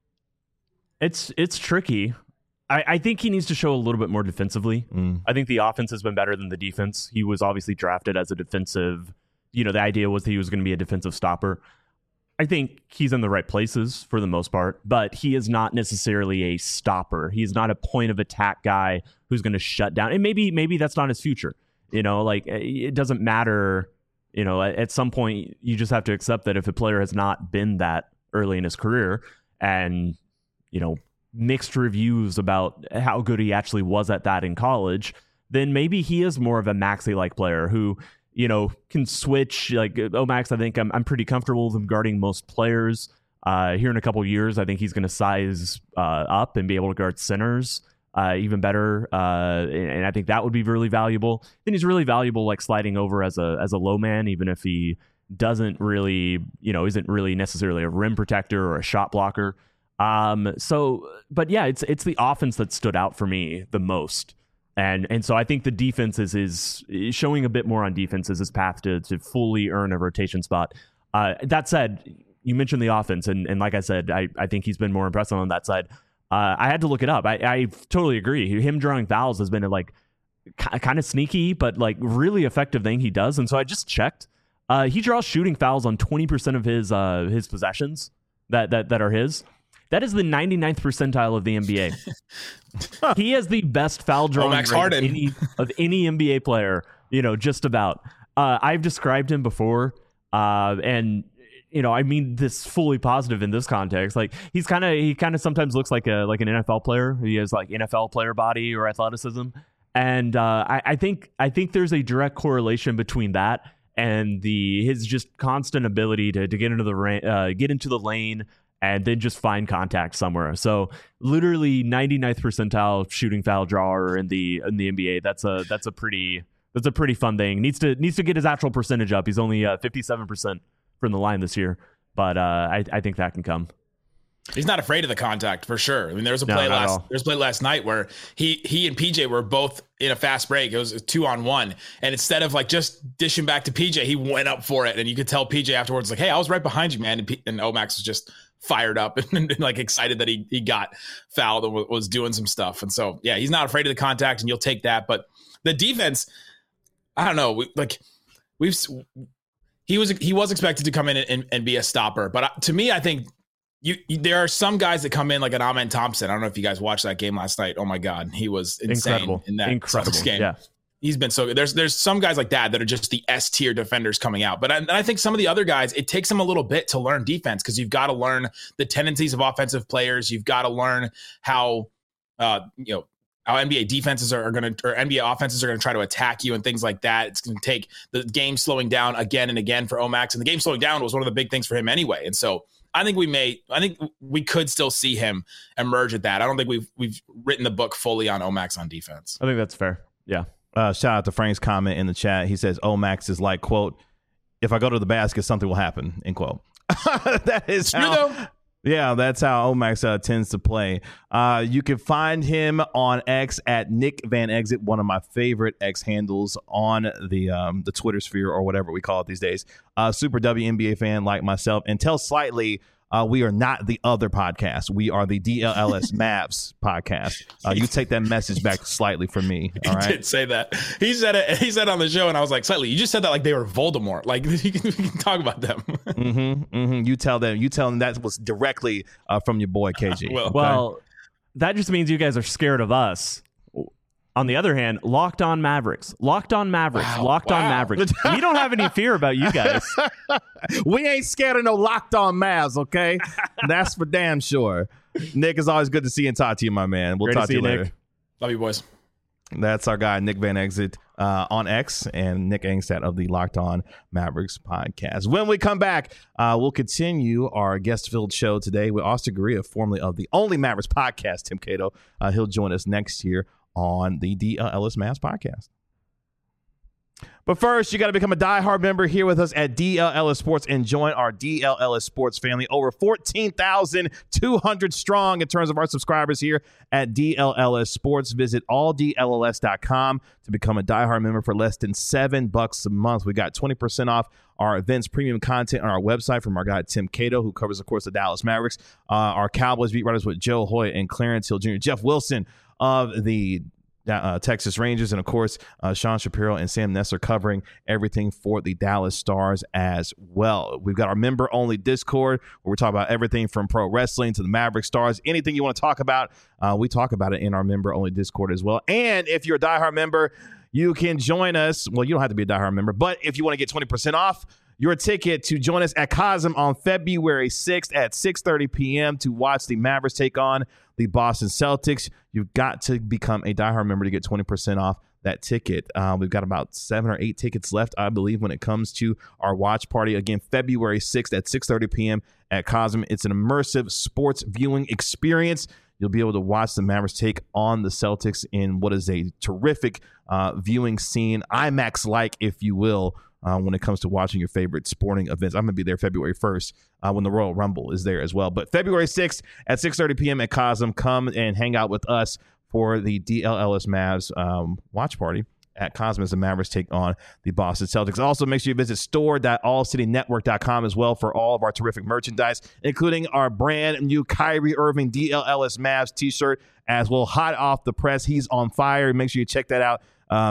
it's tricky. I think he needs to show a little bit more defensively. I think the offense has been better than the defense. He was obviously drafted as a defensive, the idea was that he was going to be a defensive stopper. I think he's in the right places for the most part, but he is not necessarily a stopper. He's not a point of attack guy who's going to shut down. And maybe that's not his future. It doesn't matter. At some point you just have to accept that if a player has not been that early in his career and, mixed reviews about how good he actually was at that in college, then maybe he is more of a Maxey-like player who, can switch. Like Omax, I think I'm pretty comfortable with him guarding most players. Here in a couple of years, I think he's going to size up and be able to guard centers even better. And I think that would be really valuable. Then he's really valuable, like sliding over as a low man, even if he doesn't really, isn't really necessarily a rim protector or a shot blocker. But yeah, it's the offense that stood out for me the most. And so I think the defense is showing a bit more on defense as his path to fully earn a rotation spot. That said, you mentioned the offense, and like I said, I think he's been more impressive on that side. I had to look it up. I totally agree. Him drawing fouls has been a kind of sneaky, but really effective thing he does. And so I just checked. He draws shooting fouls on 20% of his possessions that are his. That is the 99th percentile of the NBA. He has the best foul drawing rate of any NBA player, just about. I've described him before, and I mean this fully positive in this context. He kind of sometimes looks like an NFL player. He has NFL player body or athleticism, and I think there's a direct correlation between that and his just constant ability to get into the lane. And then just find contact somewhere. So literally 99th percentile shooting foul drawer in the NBA. That's a pretty fun thing. Needs to get his actual percentage up. He's only 57% from the line this year, but I think that can come. He's not afraid of the contact for sure. I mean, there was a play last night where he and PJ were both in a fast break. It was a 2-on-1, and instead of just dishing back to PJ, he went up for it, and you could tell PJ afterwards hey, I was right behind you, man. And Omax was just fired up and excited that he got fouled and was doing some stuff. And so yeah, he's not afraid of the contact, and you'll take that. But the defense, I don't know. He was expected to come in and be a stopper, but to me, I think. There are some guys that come in like an Amen Thompson. I don't know if you guys watched that game last night. Oh my God, he was insane in that game. Yeah. He's been so good. There's some guys like that are just the S tier defenders coming out. But I think some of the other guys, it takes them a little bit to learn defense because you've got to learn the tendencies of offensive players. You've got to learn how how NBA defenses or NBA offenses are going to try to attack you and things like that. It's going to take the game slowing down again and again for Omax, and the game slowing down was one of the big things for him anyway. And so I think we could still see him emerge at that. I don't think we've written the book fully on Omax on defense. I think that's fair. Yeah. Shout out to Frank's comment in the chat. He says, Max is like, quote, if I go to the basket, something will happen, end quote. That is how, yeah, that's how Omax tends to play. You can find him on X at Nick Van Exit, one of my favorite X handles on the Twitter sphere or whatever we call it these days. Super WNBA fan like myself. And tell Slightly we are not the other podcast. We are the DLLS Mavs podcast. You take that message back slightly from me. All right? He did say that. He said it. He said it on the show, and I was like, Slightly, you just said that like they were Voldemort. Like we can talk about them. You tell them that was directly from your boy KG. Well, that just means you guys are scared of us. On the other hand, Locked On Mavericks. Wow. Locked On Mavericks. We don't have any fear about you guys. We ain't scared of no Locked On Mavs, okay? That's for damn sure. Nick, it's always good to see you and talk to you, my man. We'll talk to you later. Nick. Love you, boys. That's our guy, Nick Van Exit on X, and Nick Angstadt of the Locked On Mavericks podcast. When we come back, we'll continue our guest-filled show today with Austin Guerrilla, formerly of the Only Mavericks podcast, Tim Cato. He'll join us next year on the DLLS Mavs podcast. But first, you got to become a diehard member here with us at DLLS Sports and join our DLLS Sports family. Over 14,200 strong in terms of our subscribers here at DLLS Sports. Visit alldlls.com to become a diehard member for less than $7 a month. We got 20% off our events premium content on our website from our guy Tim Cato, who covers, of course, the Dallas Mavericks. Our Cowboys beat writers with Joe Hoyt and Clarence Hill Jr., Jeff Wilson of the Texas Rangers, and of course Sean Shapiro and Sam Ness are covering everything for the Dallas Stars as well. We've got our member only Discord where we talk about everything from pro wrestling to the Maverick Stars. Anything you want to talk about, we talk about it in our member only Discord as well. And if you're a diehard member, you can join us. Well, you don't have to be a diehard member, but if you want to get 20% off your ticket to join us at Cosm on February 6th at 6:30 p.m. to watch the Mavericks take on the Boston Celtics, you've got to become a diehard member to get 20% off that ticket. We've got about 7 or 8 tickets left, I believe, when it comes to our watch party. Again, February 6th at 6:30 p.m. at Cosm. It's an immersive sports viewing experience. You'll be able to watch the Mavericks take on the Celtics in what is a terrific viewing scene, IMAX-like, if you will, when it comes to watching your favorite sporting events. I'm going to be there February 1st when the Royal Rumble is there as well. But February 6th at 6:30 p.m. at Cosm, come and hang out with us for the DLLS Mavs watch party at Cosm as the Mavericks take on the Boston Celtics. Also, make sure you visit store.allcitynetwork.com as well for all of our terrific merchandise, including our brand new Kyrie Irving DLLS Mavs t-shirt as well. Hot off the press. He's on fire. Make sure you check that out.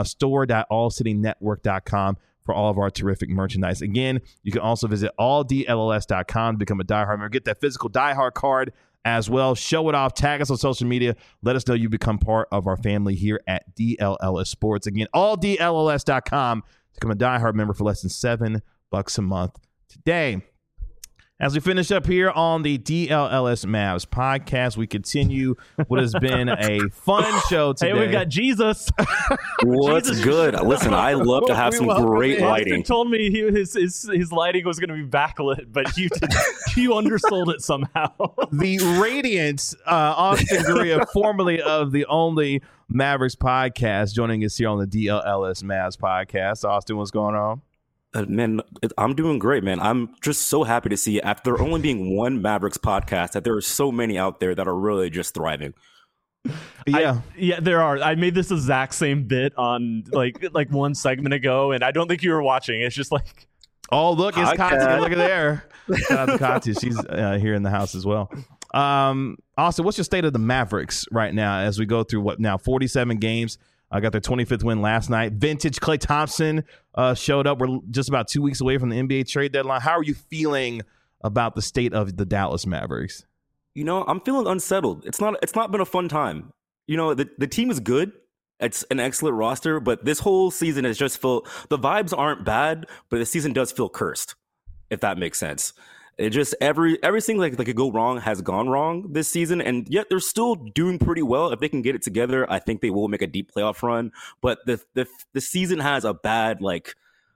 Store.allcitynetwork.com for all of our terrific merchandise. Again, you can also visit alldlls.com to become a diehard member. Get that physical diehard card as well. Show it off. Tag us on social media. Let us know you become part of our family here at DLLS Sports. Again, alldlls.com to become a diehard member for less than $7 a month today. As we finish up here on the DLLS Mavs podcast, we continue what has been a fun show today. Hey, we've got Jesus. What's Jesus. Good? Listen, I love to have some great lighting. Austin told me his lighting was going to be backlit, but you undersold it somehow. The radiant Austin Guerrilla, formerly of the Only Mavericks podcast, joining us here on the DLLS Mavs podcast. Austin, what's going on? Man, I'm doing great, man. I'm just so happy to see, after there only being one Mavericks podcast, that there are so many out there that are really just thriving. Yeah, there are. I made this exact same bit on like one segment ago, and I don't think you were watching. It's just like, oh, look, it's Katya. Look at there. Shout out to Katya. She's here in the house as well. Austin, what's your state of the Mavericks right now as we go through 47 games? I got their 25th win last night. Vintage Klay Thompson showed up. We're just about 2 weeks away from the NBA trade deadline. How are you feeling about the state of the Dallas Mavericks? You know, I'm feeling unsettled. It's not been a fun time. You know, the team is good. It's an excellent roster, but this whole season has just felt, the vibes aren't bad, but the season does feel cursed, if that makes sense. It just everything that could go wrong has gone wrong this season, and yet they're still doing pretty well. If they can get it together, I think they will make a deep playoff run. But the season has a bad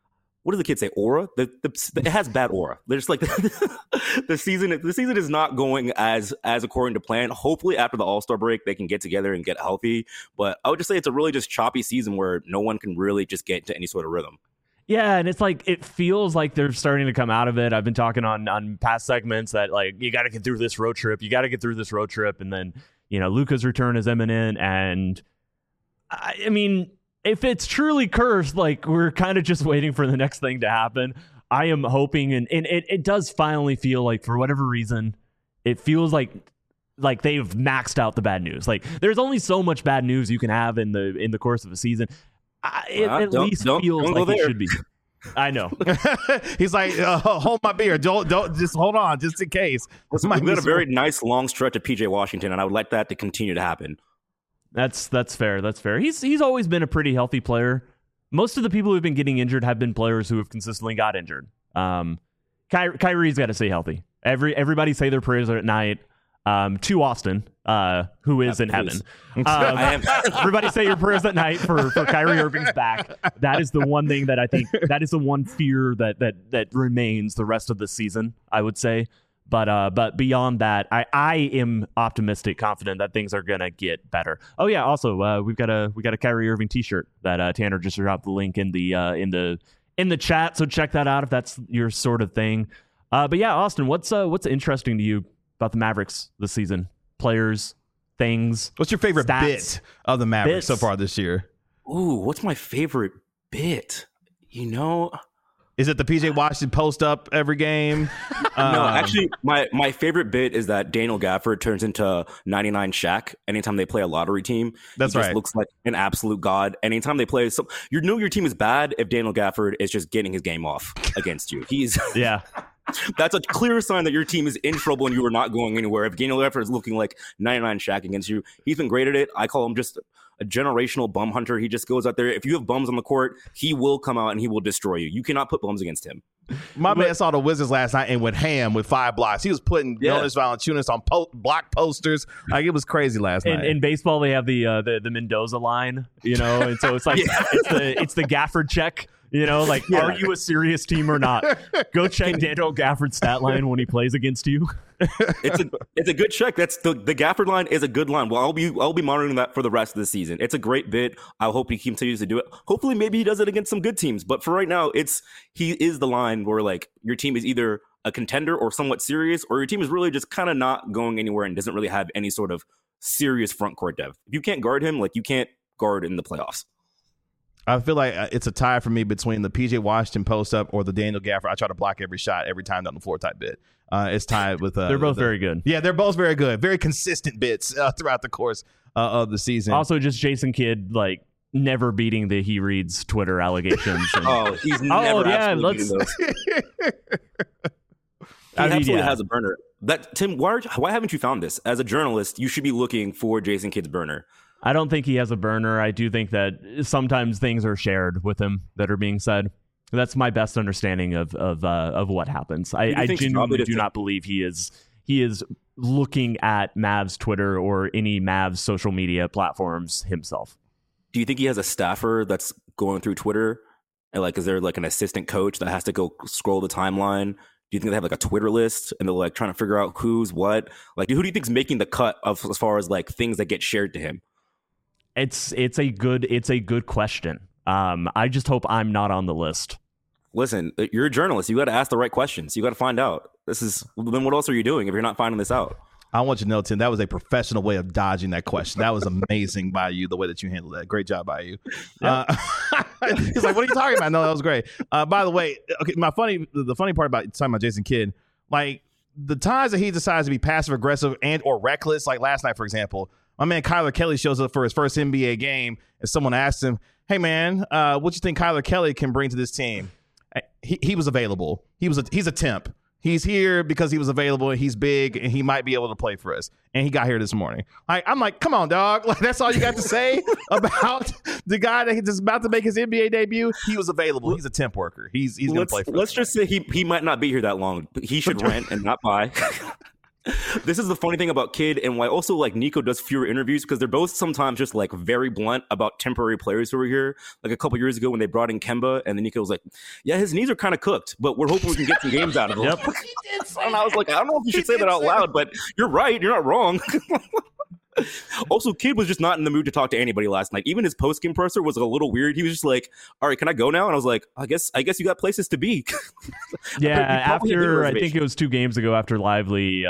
what does the kid say? Aura? It has bad aura. They're just like the season is not going as according to plan. Hopefully after the All-Star break they can get together and get healthy. But I would just say it's a really just choppy season where no one can really just get into any sort of rhythm. Yeah, and it's like it feels like they're starting to come out of it. I've been talking on past segments that like you got to get through this road trip. And then, you know, Luka's return is imminent. And I mean, if it's truly cursed, like we're kind of just waiting for the next thing to happen. I am hoping, and it does finally feel like for whatever reason, it feels like they've maxed out the bad news. Like there's only so much bad news you can have in the course of a season. It at least feels like it should be. I know. He's like, hold my beer. Don't just hold on, just in case. We've got a very nice long stretch of PJ Washington, and I would like that to continue to happen. That's fair. That's fair. He's always been a pretty healthy player. Most of the people who've been getting injured have been players who have consistently got injured. Kyrie's got to stay healthy. Everybody say their prayers at night. To Austin, who is in heaven. Everybody say your prayers at night for Kyrie Irving's back. That is the one thing that I think, that is the one fear that remains the rest of the season, I would say. But beyond that, I am optimistic, confident that things are gonna get better. Oh yeah, also we got a Kyrie Irving t-shirt that Tanner just dropped the link in the chat, so check that out if that's your sort of thing. But yeah, Austin, what's interesting to you about the Mavericks this season? Players, things. What's your favorite stats, bit of the Mavericks so far this year? Ooh, what's my favorite bit? You know, is it the PJ Washington post up every game? No, actually, my favorite bit is that Daniel Gafford turns into 99 Shaq anytime they play a lottery team. That's he just right. Looks like an absolute god. Anytime they play, so you know your team is bad if Daniel Gafford is just getting his game off against you. Yeah. That's a clear sign that your team is in trouble and you are not going anywhere. If Daniel Gafford is looking like 99 Shaq against you, he's been great at it. I call him just a generational bum hunter. He just goes out there. If you have bums on the court, he will come out and he will destroy you. You cannot put bums against him. My man saw the Wizards last night and went ham with 5 blocks. He was putting Jonas Valanciunas on block posters. Like it was crazy last night. In baseball, they have the Mendoza line, you know, and so it's like it's the Gafford check. You know, like, are you a serious team or not? Go check Daniel Gafford's stat line when he plays against you. It's a good check. That's the Gafford line is a good line. Well, I'll be monitoring that for the rest of the season. It's a great bit. I hope he continues to do it. Hopefully, maybe he does it against some good teams. But for right now, he is the line where like your team is either a contender or somewhat serious, or your team is really just kind of not going anywhere and doesn't really have any sort of serious front court depth. If you can't guard him, like you can't guard in the playoffs. I feel like it's a tie for me between the PJ Washington post up or the Daniel Gafford. I try to block every shot every time down the floor type bit. It's tied with. They're both very good. Yeah, they're both very good. Very consistent bits throughout the course of the season. Also, just Jason Kidd like never beating the He Reads Twitter allegations. And, he's never beating those. He absolutely has a burner. Tim, why haven't you found this? As a journalist, you should be looking for Jason Kidd's burner. I don't think he has a burner. I do think that sometimes things are shared with him that are being said. That's my best understanding of what happens. I genuinely do not believe he is looking at Mavs Twitter or any Mavs social media platforms himself. Do you think he has a staffer that's going through Twitter? And like, is there like an assistant coach that has to go scroll the timeline? Do you think they have like a Twitter list and they're like trying to figure out who's what? Like, who do you think's making the cut of as far as like things that get shared to him? It's a good question. I just hope I'm not on the list. Listen, you're a journalist. You got to ask the right questions. You got to find out. Then what else are you doing if you're not finding this out? I want you to know, Tim, that was a professional way of dodging that question. That was amazing by you, the way that you handled that. Great job by you. Yeah. He's like, what are you talking about? No, that was great. By the way, okay, the funny part about talking about Jason Kidd, like the times that he decides to be passive aggressive and or reckless, like last night, for example, my man Kyler Kelly shows up for his first NBA game and someone asked him, hey man, what you think Kyler Kelly can bring to this team? He was available. He's a temp. He's here because he was available and he's big and he might be able to play for us. And he got here this morning. I'm like, come on, dog. Like, that's all you got to say about the guy that's about to make his NBA debut? He was available. He's a temp worker. He's going to play for us. Let's just say he might not be here that long. He should rent and not buy. This is the funny thing about Kidd and why also like Nico does fewer interviews, because they're both sometimes just like very blunt about temporary players who are here. Like a couple years ago when they brought in Kemba, and then Nico was like, yeah, his knees are kind of cooked, but we're hoping we can get some games out of him. Yep. And I was like, I don't know if you should say that out loud, but you're right. You're not wrong. Also, Kidd was just not in the mood to talk to anybody last night. Even his post-game presser was a little weird. He was just like, all right, can I go now? And I was like, I guess you got places to be. Yeah, after I think it was 2 games ago after Lively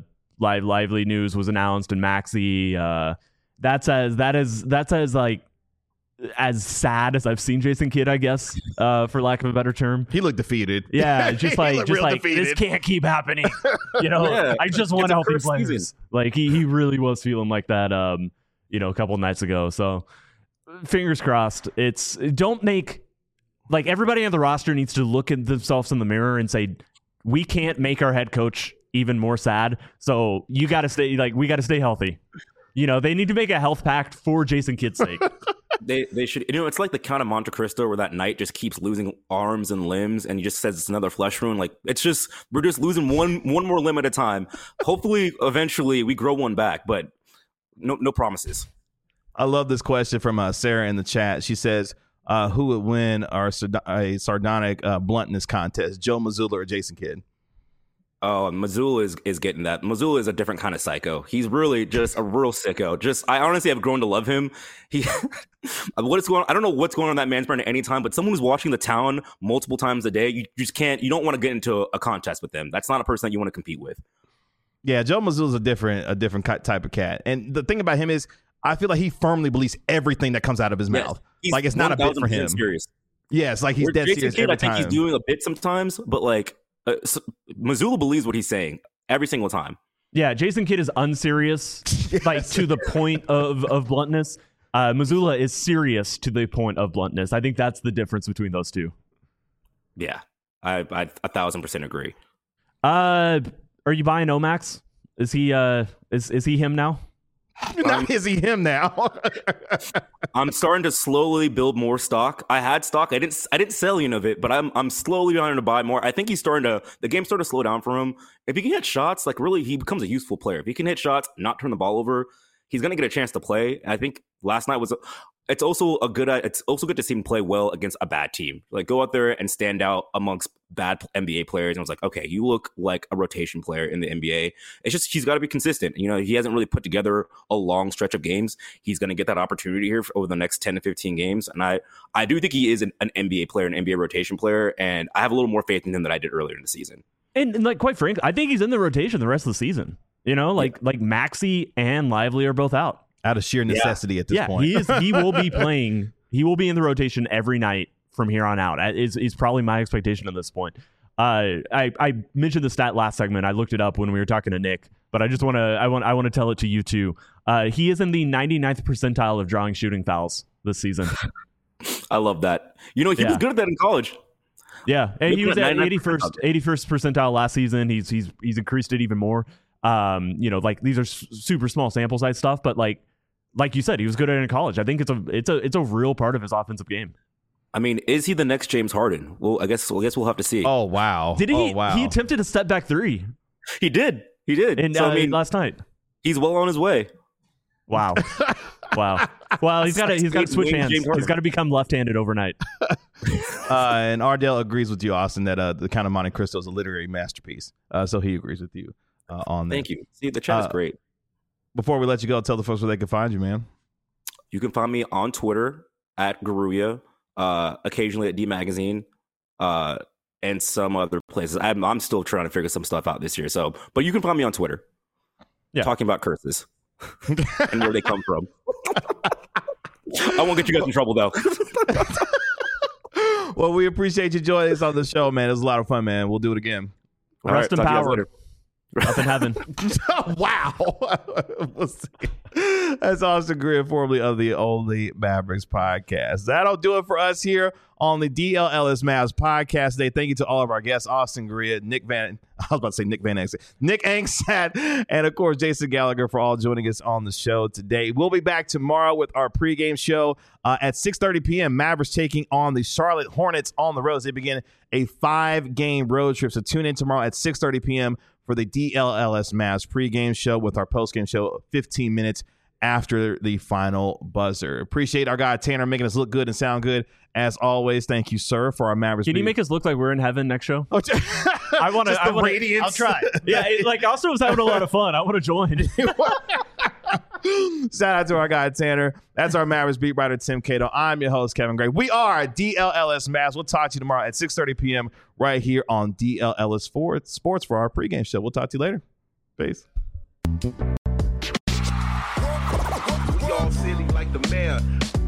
news was announced and Maxey, that's as like as sad as I've seen Jason Kidd, I guess, for lack of a better term. He looked defeated. Yeah, just like this can't keep happening. You know, Yeah, I just want healthy players. Like he really was feeling like that, a couple nights ago. So fingers crossed. Don't make like everybody on the roster needs to look at themselves in the mirror and say, we can't make our head coach even more sad. So you got to stay we got to stay healthy. You know, they need to make a health pact for Jason Kidd's sake. They should, it's like the Count of Monte Cristo where that knight just keeps losing arms and limbs and he just says it's another flesh wound. Like we're just losing one more limb at a time. Hopefully eventually we grow one back, but no promises. I love this question from Sarah in the chat. She says, who would win a sardonic bluntness contest, Joe Mazzulla or Jason Kidd? Oh, Mazzulla is getting that. Mazzulla is a different kind of psycho. He's really just a real sicko. I honestly have grown to love him. I don't know what's going on in that man's brain at any time, but someone who's watching The Town multiple times a day, you just can't, you don't want to get into a contest with them. That's not a person that you want to compete with. Yeah, Joe Mazzulla's a different type of cat. And the thing about him is, I feel like he firmly believes everything that comes out of his mouth. Like it's not a bit for him. Serious. Yeah, it's like he's dead serious every time. I think he's doing a bit sometimes, but like Mazzulla believes what he's saying every single time. Yeah, Jason Kidd is unserious, like to the point of bluntness. Mazzulla is serious to the point of bluntness. I think that's the difference between those two. Yeah, I 1,000% agree. Are you buying Omax? Is he is he him now? Is he him now? I'm starting to slowly build more stock. I had stock. I didn't sell any of it, but I'm slowly starting to buy more. I think the game's starting to slow down for him. If he can hit shots, like really, he becomes a useful player. If he can hit shots, not turn the ball over, he's going to get a chance to play. I think last night it's also good to see him play well against a bad team. Like go out there and stand out amongst bad NBA players. And I was like, okay, you look like a rotation player in the NBA. It's just he's got to be consistent. You know, he hasn't really put together a long stretch of games. He's going to get that opportunity here over the next 10 to 15 games. And I do think he is an NBA player, an NBA rotation player. And I have a little more faith in him than I did earlier in the season. And like quite frankly, I think he's in the rotation the rest of the season. You know, like Maxey and Lively are both out. Out of sheer necessity at this point. He will be playing. He will be in the rotation every night from here on out. Is probably my expectation at this point. I mentioned the stat last segment. I looked it up when we were talking to Nick, but I want to tell it to you too. He is in the 99th percentile of drawing shooting fouls this season. I love that. You know, he was good at that in college. Yeah, and he was at 81st percentile last season. He's increased it even more. Like these are super small sample size stuff, but like you said, he was good at it in college. I think it's a real part of his offensive game. I mean, is he the next James Harden? Well, I guess we'll have to see. Oh wow! Did he? Oh, wow. He attempted a step back three. He did. And so, last night, he's well on his way. Wow. Wow. Well, he's got to switch hands. He's got to become left-handed overnight. And Ardell agrees with you, Austin, that the Count of Monte Cristo is a literary masterpiece. So he agrees with you on that. Thank you. See, the chat is great. Before we let you go, tell the folks where they can find you, man. You can find me on Twitter at Garuya, occasionally at D Magazine, and some other places. I'm still trying to figure some stuff out this year. But you can find me on Twitter, talking about curses and where they come from. I won't get you guys in trouble though. Well, we appreciate you joining us on the show, man. It was a lot of fun, man. We'll do it again. Rest in power. Up in heaven. Wow. We'll see. That's Austin Greer, formerly of the Only Mavericks podcast. That'll do it for us here on the DLLS Mavs podcast today. Thank you to all of our guests, Austin Greer, Nick Van Angsat, and of course, Jason Gallagher for all joining us on the show today. We'll be back tomorrow with our pregame show at 6:30 p.m. Mavericks taking on the Charlotte Hornets on the road. They begin a 5-game road trip. So tune in tomorrow at 6:30 p.m. for the DLLS Mavs pregame show with our postgame show 15 minutes after the final buzzer. Appreciate our guy Tanner making us look good and sound good. As always, thank you, sir, for our Mavericks. Can you make us look like we're in heaven next show? I want to. Radiance. I'll try. Yeah, Austin was having a lot of fun. I want to join. Shout out to our guy Tanner. That's our Mavericks beat writer Tim Cato. I'm your host Kevin Gray. We are DLLS Mavs. We'll talk to you tomorrow at 6:30 p.m. right here on DLLS Sports for our pregame show. We'll talk to you later. Peace. We all silly like the mayor.